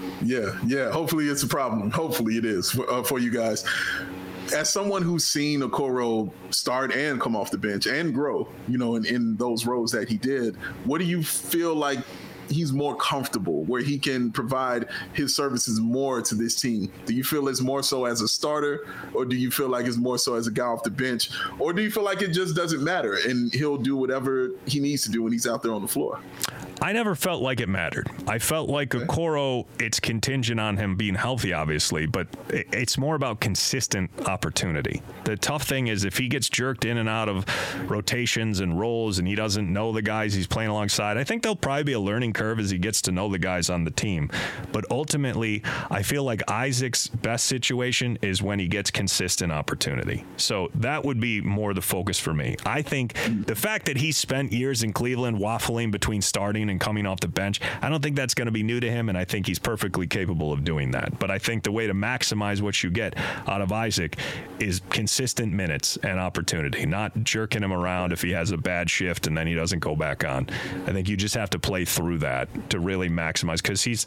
Yeah. Hopefully it's a problem. Hopefully it is for you guys. As someone who's seen Okoro start and come off the bench and grow, in those roles that he did, what do you feel like he's more comfortable, where he can provide his services more to this team? Do you feel it's more so as a starter, or do you feel like it's more so as a guy off the bench, or do you feel like it just doesn't matter and he'll do whatever he needs to do when he's out there on the floor? I never felt like it mattered. I felt like Okoro, it's contingent on him being healthy, obviously, but it's more about consistent opportunity. The tough thing is if he gets jerked in and out of rotations and roles and he doesn't know the guys he's playing alongside, I think there'll probably be a learning curve as he gets to know the guys on the team. But ultimately, I feel like Isaac's best situation is when he gets consistent opportunity. So that would be more the focus for me. I think the fact that he spent years in Cleveland waffling between starting producing and coming off the bench. I don't think that's going to be new to him, and I think he's perfectly capable of doing that. But I think the way to maximize what you get out of Isaac is consistent minutes and opportunity, not jerking him around if he has a bad shift and then he doesn't go back on. I think you just have to play through that to really maximize, because he's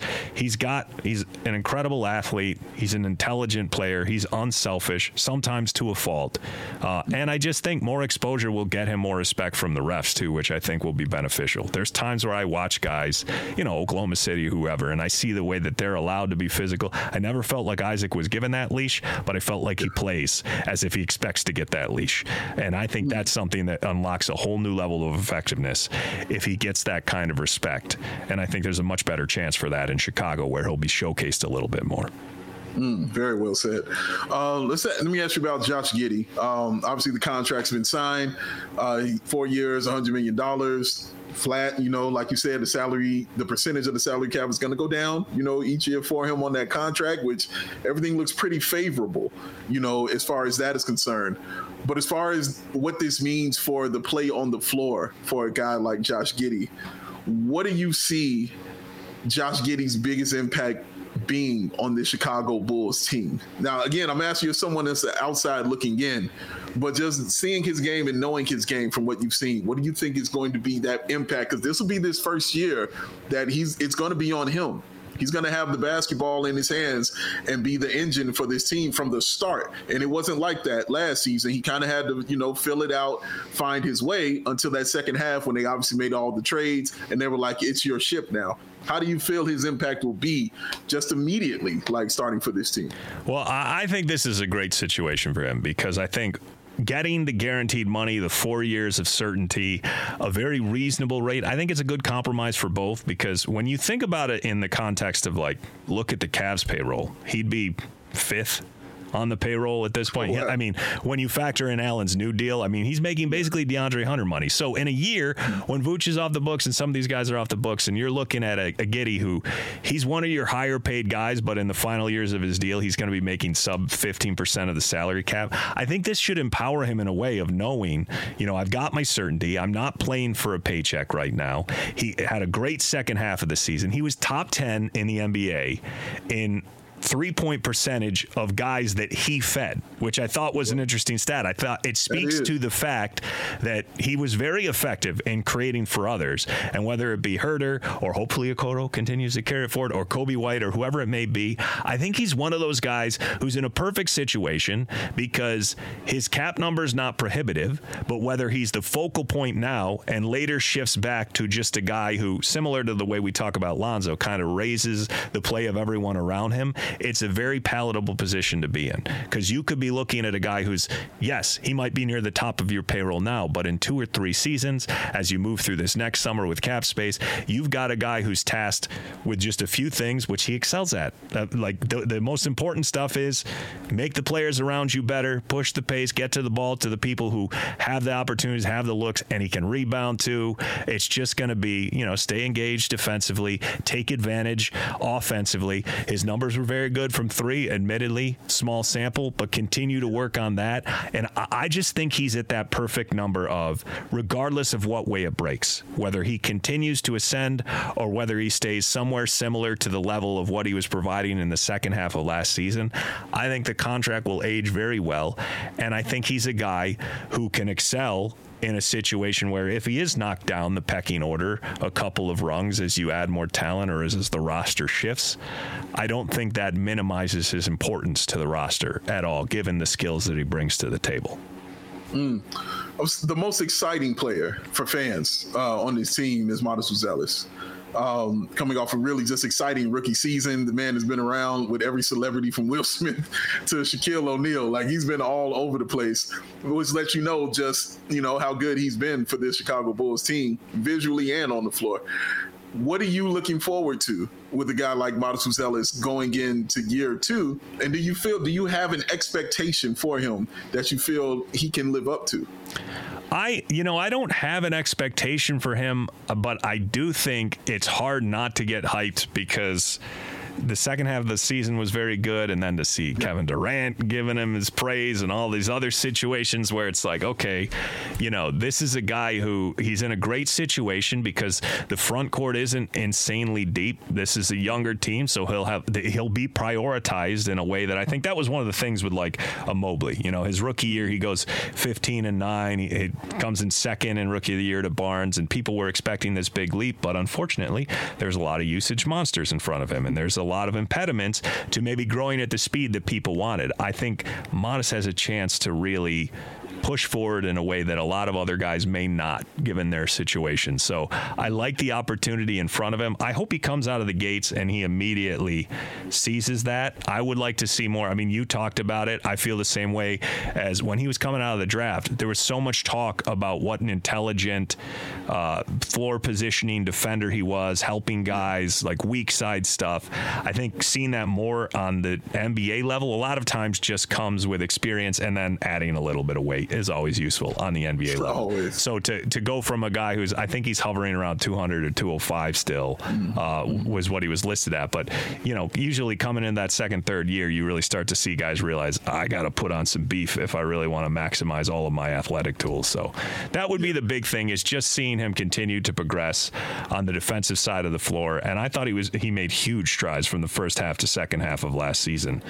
an incredible athlete. He's an intelligent player. He's unselfish, sometimes to a fault. And I just think more exposure will get him more respect from the refs too, which I think will be beneficial. There's times where I watch guys, Oklahoma City, whoever, and I see the way that they're allowed to be physical. I never felt like Isaac was given that leash, but I felt like he plays as if he expects to get that leash. And I think that's something that unlocks a whole new level of effectiveness if he gets that kind of respect. And I think there's a much better chance for that in Chicago, where he'll be showcased a little bit more. Very well said. Let me ask you about Josh Giddey. Obviously, the contract's been signed. 4 years, $100 million. Flat, like you said, the percentage of the salary cap is going to go down, each year for him on that contract, which everything looks pretty favorable, as far as that is concerned. But as far as what this means for the play on the floor for a guy like Josh Giddey, what do you see Josh Giddey's biggest impact being on the Chicago Bulls team? Now, again, I'm asking you as someone that's outside looking in, but just seeing his game and knowing his game from what you've seen, what do you think is going to be that impact? Because this will be this first year that it's going to be on him. He's going to have the basketball in his hands and be the engine for this team from the start. And it wasn't like that last season. He kind of had to, fill it out, find his way until that second half when they obviously made all the trades and they were like, it's your ship now. How do you feel his impact will be just immediately, starting for this team? Well, I think this is a great situation for him, because I think getting the guaranteed money, the 4 years of certainty, a very reasonable rate, I think it's a good compromise for both, because when you think about it in the context of look at the Cavs payroll, he'd be fifth on the payroll at this point. I mean, when you factor in Allen's new deal, he's making basically DeAndre Hunter money. So in a year, when Vooch is off the books and some of these guys are off the books, and you're looking at a Giddey who, he's one of your higher paid guys, but in the final years of his deal, he's going to be making sub 15% of the salary cap. I think this should empower him in a way of knowing, I've got my certainty. I'm not playing for a paycheck right now. He had a great second half of the season. He was top 10 in the NBA in 3-point percentage of guys that he fed, which I thought was an interesting stat. I thought it speaks to the fact that he was very effective in creating for others, and whether it be Herter or hopefully Okoro continues to carry it forward, or Kobe White or whoever it may be, I think he's one of those guys who's in a perfect situation because his cap number is not prohibitive, but whether he's the focal point now and later shifts back to just a guy who, similar to the way we talk about Lonzo, kind of raises the play of everyone around him, it's a very palatable position to be in, because you could be looking at a guy who's, yes, he might be near the top of your payroll now, but in 2 or 3 seasons, as you move through this next summer with cap space, you've got a guy who's tasked with just a few things, which he excels at. The most important stuff is make the players around you better, push the pace, get to the ball to the people who have the opportunities, have the looks, and he can rebound too. It's just going to be, stay engaged defensively, take advantage offensively. His numbers were very good from 3, admittedly, small sample, but continue to work on that. And I just think he's at that perfect number of, regardless of what way it breaks, whether he continues to ascend or whether he stays somewhere similar to the level of what he was providing in the second half of last season, I think the contract will age very well. And I think he's a guy who can excel in a situation where if he is knocked down the pecking order a couple of rungs as you add more talent or as the roster shifts, I don't think that minimizes his importance to the roster at all, given the skills that he brings to the table. The most exciting player for fans on this team is Modest Zealous. Coming off a really just exciting rookie season. The man has been around with every celebrity from Will Smith to Shaquille O'Neal. He's been all over the place, which lets you know just, how good he's been for this Chicago Bulls team, visually and on the floor. What are you looking forward to with a guy like Modest Zealous going into year 2? And do you have an expectation for him that you feel he can live up to? I don't have an expectation for him, but I do think it's hard not to get hyped because the second half of the season was very good, and then to see Kevin Durant giving him his praise and all these other situations where it's like, okay, this is a guy who he's in a great situation because the front court isn't insanely deep. This is a younger team, so he'll be prioritized in a way that I think that was one of the things with like a Mobley. His rookie year, he goes 15-9. He comes in second in rookie of the year to Barnes, and people were expecting this big leap, but unfortunately, there's a lot of usage monsters in front of him, and there's a lot of impediments to maybe growing at the speed that people wanted. I think Modest has a chance to really push forward in a way that a lot of other guys may not, given their situation. So I like the opportunity in front of him. I hope he comes out of the gates and he immediately seizes that. I would like to see more. I mean, you talked about it. I feel the same way as when he was coming out of the draft. There was so much talk about what an intelligent floor positioning defender he was, helping guys, like weak side stuff. I think seeing that more on the NBA level a lot of times just comes with experience, and then adding a little bit of weight is always useful on the NBA level. Always. So to go from a guy who's, I think he's hovering around 200 or 205 still, was what he was listed at. But, usually coming in that second, third year, you really start to see guys realize, I got to put on some beef if I really want to maximize all of my athletic tools. So that would be the big thing, is just seeing him continue to progress on the defensive side of the floor. And I thought he made huge strides from the first half to second half of last season.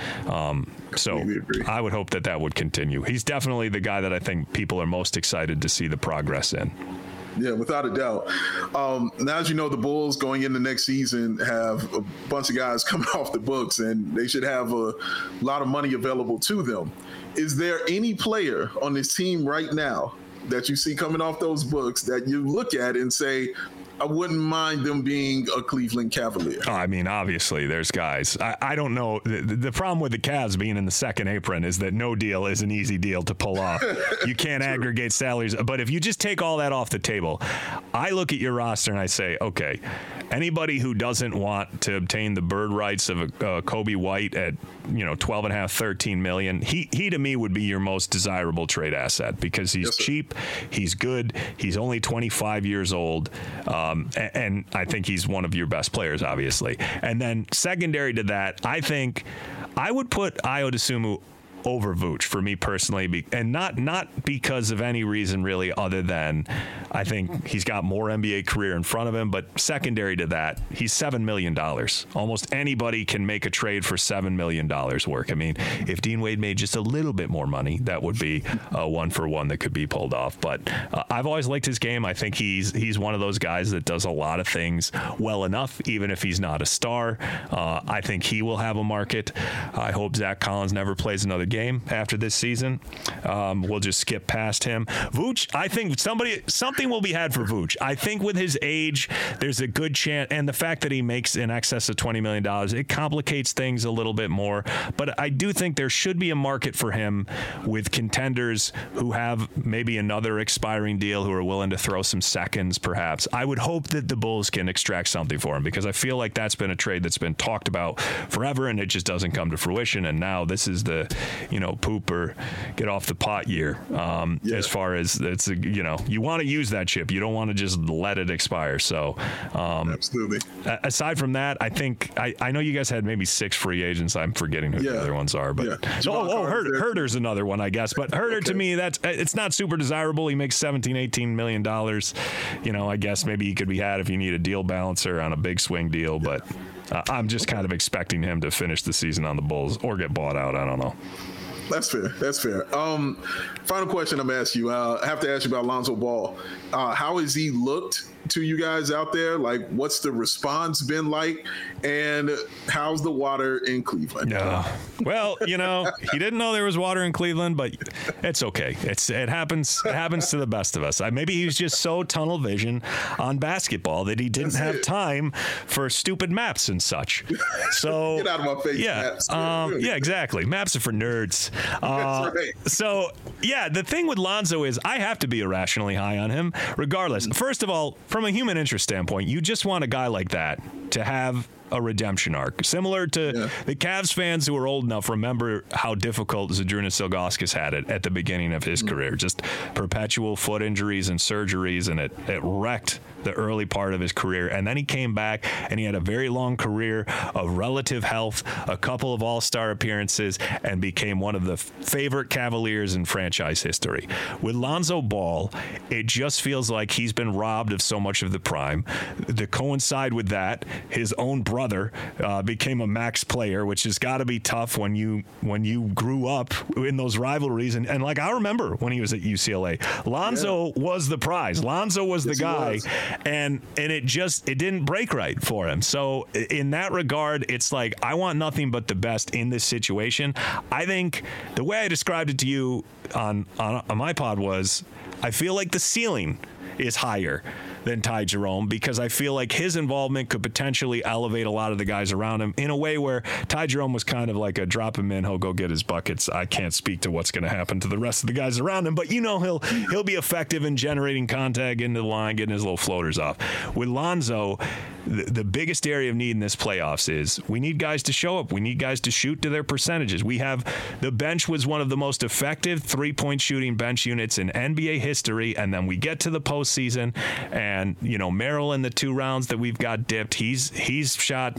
So I would hope that would continue. He's definitely the guy that I think people are most excited to see the progress in. Yeah, without a doubt. Now, as you know, the Bulls going into next season have a bunch of guys coming off the books, and they should have a lot of money available to them. Is there any player on this team right now that you see coming off those books that you look at and say, I wouldn't mind them being a Cleveland Cavalier? I mean, obviously, there's guys. I don't know. The problem with the Cavs being in the second apron is that no deal is an easy deal to pull off. You can't aggregate salaries. But if you just take all that off the table, I look at your roster and I say, okay, anybody who doesn't want to obtain the bird rights of a Kobe White at 12.5, 13 million, he to me would be your most desirable trade asset, because he's cheap, he's good, he's only 25 years old. And I think he's one of your best players, obviously. And then secondary to that, I think I would put Ayo Dosunmu over Vooch for me personally, and not because of any reason really other than I think he's got more NBA career in front of him. But secondary to that, he's $7 million. Almost anybody can make a trade for $7 million work. I mean, if Dean Wade made just a little bit more money, that would be a 1-for-1 that could be pulled off. But I've always liked his game. I think he's one of those guys that does a lot of things well enough, even if he's not a star. I think he will have a market. I hope Zach Collins never plays another game after this season. We'll just skip past him. Vooch, I think something will be had for Vooch. I think with his age, there's a good chance, and the fact that he makes in excess of $20 million, it complicates things a little bit more. But I do think there should be a market for him with contenders who have maybe another expiring deal, who are willing to throw some seconds, perhaps. I would hope that the Bulls can extract something for him, because I feel like that's been a trade that's been talked about forever, and it just doesn't come to fruition. And now this is the poop or get off the pot year. As far as it's, you want to use that chip. You don't want to just let it expire. So, absolutely. Aside from that, I think I know you guys had maybe 6 free agents. I'm forgetting who the other ones are, but Herder's another one, I guess. But Herder to me, it's not super desirable. He makes $17-18 million. I guess maybe he could be had if you need a deal balancer on a big swing deal, but I'm just kind of expecting him to finish the season on the Bulls or get bought out. I don't know. That's fair. Final question I'm asking you. I have to ask you about Lonzo Ball. How has he looked to you guys out there? Like, what's the response been like? And how's the water in Cleveland? Well, he didn't know there was water in Cleveland, but it's okay. It happens to the best of us. Maybe he was just so tunnel vision on basketball that he didn't have time for stupid maps and such. So get out of my face. Yeah, maps. Yeah, exactly. Maps are for nerds. That's right. So yeah, the thing with Lonzo is I have to be irrationally high on him, regardless. First of all, from a human interest standpoint, you just want a guy like that to have a redemption arc, similar to the Cavs fans who are old enough remember how difficult Zydrunas Ilgauskas had it at the beginning of his career. Just perpetual foot injuries and surgeries, and it wrecked the early part of his career. And then he came back and he had a very long career of relative health, a couple of all-star appearances, and became one of the favorite Cavaliers in franchise history. With Lonzo Ball, it just feels like he's been robbed of so much of the prime. To coincide with that, his own brother became a max player, which has got to be tough when you grew up in those rivalries. And like, I remember when he was at UCLA, Lonzo was the prize. Lonzo was the guy, and it didn't break right for him. So in that regard, it's like, I want nothing but the best in this situation. I think the way I described it to you on my pod was, I feel like the ceiling is higher than Ty Jerome, because I feel like his involvement could potentially elevate a lot of the guys around him in a way where Ty Jerome was kind of like a drop him in, he'll go get his buckets. I can't speak to what's going to happen to the rest of the guys around him, but he'll be effective in generating contact into the line, getting his little floaters off. With Lonzo, the biggest area of need in this playoffs is we need guys to show up. We need guys to shoot to their percentages. The bench was one of the most effective three-point shooting bench units in NBA history, and then we get to the postseason, and Merrill in the 2 rounds that we've got dipped, he's shot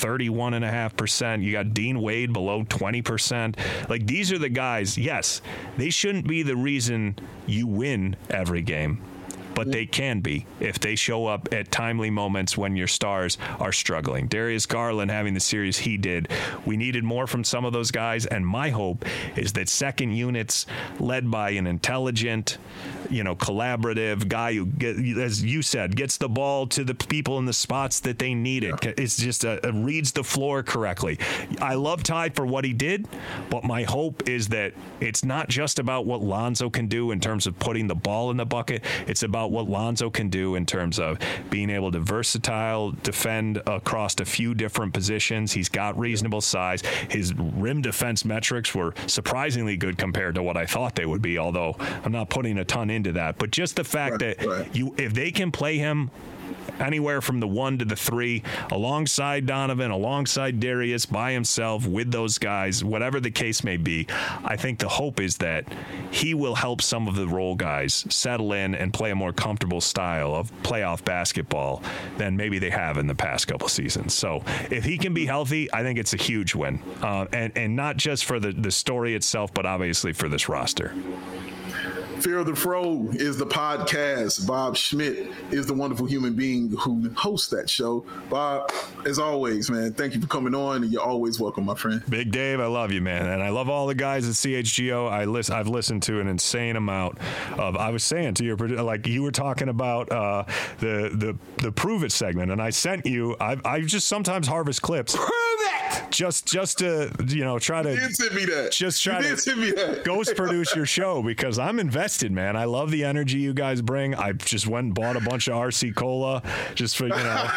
31.5%. You got Dean Wade below 20%. Like, these are the guys. Yes, they shouldn't be the reason you win every game, but they can be if they show up at timely moments when your stars are struggling. Darius Garland having the series he did, we needed more from some of those guys, and my hope is that second units led by an intelligent, collaborative guy who, as you said, gets the ball to the people in the spots that they need it. It's just reads the floor correctly. I love Ty for what he did, but my hope is that it's not just about what Lonzo can do in terms of putting the ball in the bucket. It's about what Lonzo can do in terms of being able to versatile defend across a few different positions. He's got reasonable size. His rim defense metrics were surprisingly good compared to what I thought they would be, although I'm not putting a ton into that. But just the fact that if they can play him anywhere from the 1 to the 3, alongside Donovan, alongside Darius, by himself, with those guys, whatever the case may be, I think the hope is that he will help some of the role guys settle in and play a more comfortable style of playoff basketball than maybe they have in the past couple seasons. So if he can be healthy, I think it's a huge win. And not just for the story itself, but obviously for this roster. Fear of the Fro is the podcast. Bob Schmidt is the wonderful human being who hosts that show. Bob, as always, man, thank you for coming on, and you're always welcome, my friend. Big Dave, I love you, man, and I love all the guys at CHGO. I've listened to an insane amount of. I was saying to your, like you were talking about the Prove It segment, and I sent you. I just sometimes harvest clips. Prove it. Just to try to. You did send me that. Just try to ghost produce your show because I'm invested. Man, I love the energy you guys bring. I just went and bought a bunch of RC Cola just for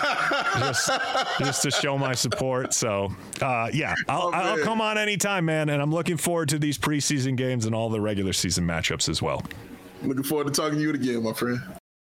just to show my support. So I'll come on anytime, man. And I'm looking forward to these preseason games and all the regular season matchups as well. Looking forward to talking to you again, my friend.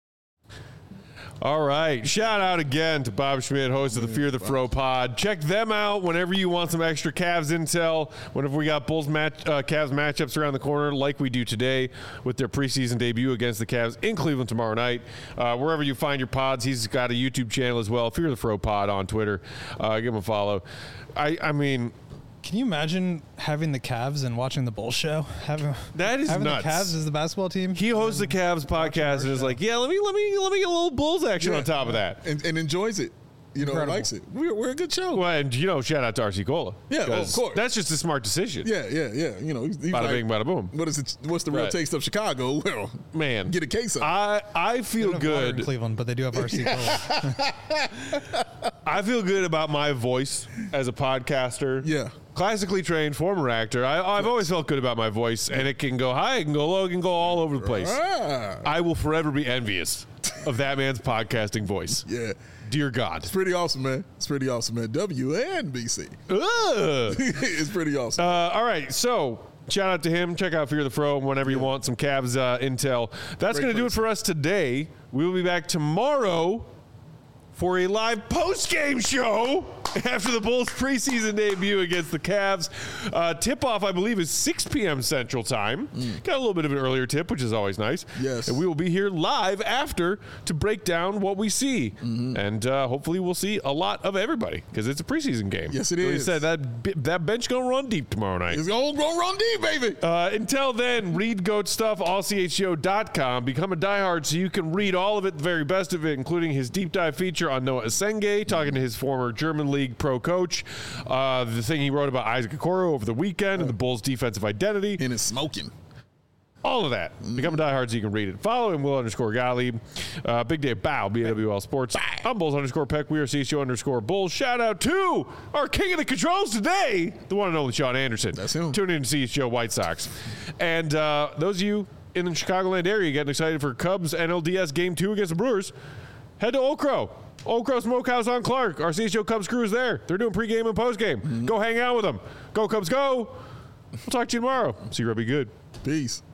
All right. Shout out again to Bob Schmidt, host of the Fear the Fro pod. Check them out whenever you want some extra Cavs intel. Whenever we got Cavs matchups around the corner, like we do today with their preseason debut against the Cavs in Cleveland tomorrow night. Wherever you find your pods, he's got a YouTube channel as well, Fear the Fro pod on Twitter. Give him a follow. I mean, can you imagine having the Cavs and watching the Bulls show? That is having nuts. The Cavs as the basketball team. He hosts the Cavs podcast and is like, yeah, let me get a little Bulls action on top of that, and enjoys it. Likes it. We're a good show. Well, and shout out to RC Cola. Yeah, of course. That's just a smart decision. Yeah. Bada bing, bada boom. What's the real taste of Chicago? Well, man, get a case of it. I feel good in Cleveland, but they do have RC Cola. I feel good about my voice as a podcaster. Yeah. Classically trained, former actor. I've always felt good about my voice, and it can go high, it can go low, it can go all over the place. I will forever be envious of that man's podcasting voice. Yeah. Dear God. It's pretty awesome, man. WNBC. It's pretty awesome. All right, so shout out to him. Check out Fear the Fro whenever you want some Cavs intel. That's going to do it for us today. We will be back tomorrow for a live post-game show after the Bulls' preseason debut against the Cavs. Tip-off, I believe, is 6 p.m. Central Time. Got a little bit of an earlier tip, which is always nice. Yes. And we will be here live after to break down what we see. And hopefully we'll see a lot of everybody because it's a preseason game. Yes, it Like is. I said, that bench going to run deep tomorrow night. It's going to run deep, baby. Until then, read GOAT stuff, allchgo.com. Become a diehard so you can read all of it, the very best of it, including his deep dive feature on Noah Asenge, talking to his former German League pro coach, the thing he wrote about Isaac Okoro over the weekend and the Bulls' defensive identity. And it's smoking. All of that. Become a diehard so you can read it. Follow him, Will_Gottlieb. Big Dave Bow, BWL Sports. I'm Bulls_Peck. We are CHGO_Bulls. Shout out to our king of the controls today, the one and only Sean Anderson. That's him. Tune in to CHGO White Sox. And those of you in the Chicagoland area getting excited for Cubs NLDS Game 2 against the Brewers, head to Oak Crow. Oak Crow Smokehouse on Clark. Our CHGO Cubs crew is there. They're doing pregame and postgame. Go hang out with them. Go Cubs, go. We'll talk to you tomorrow. See you, Robbie. Good. Peace.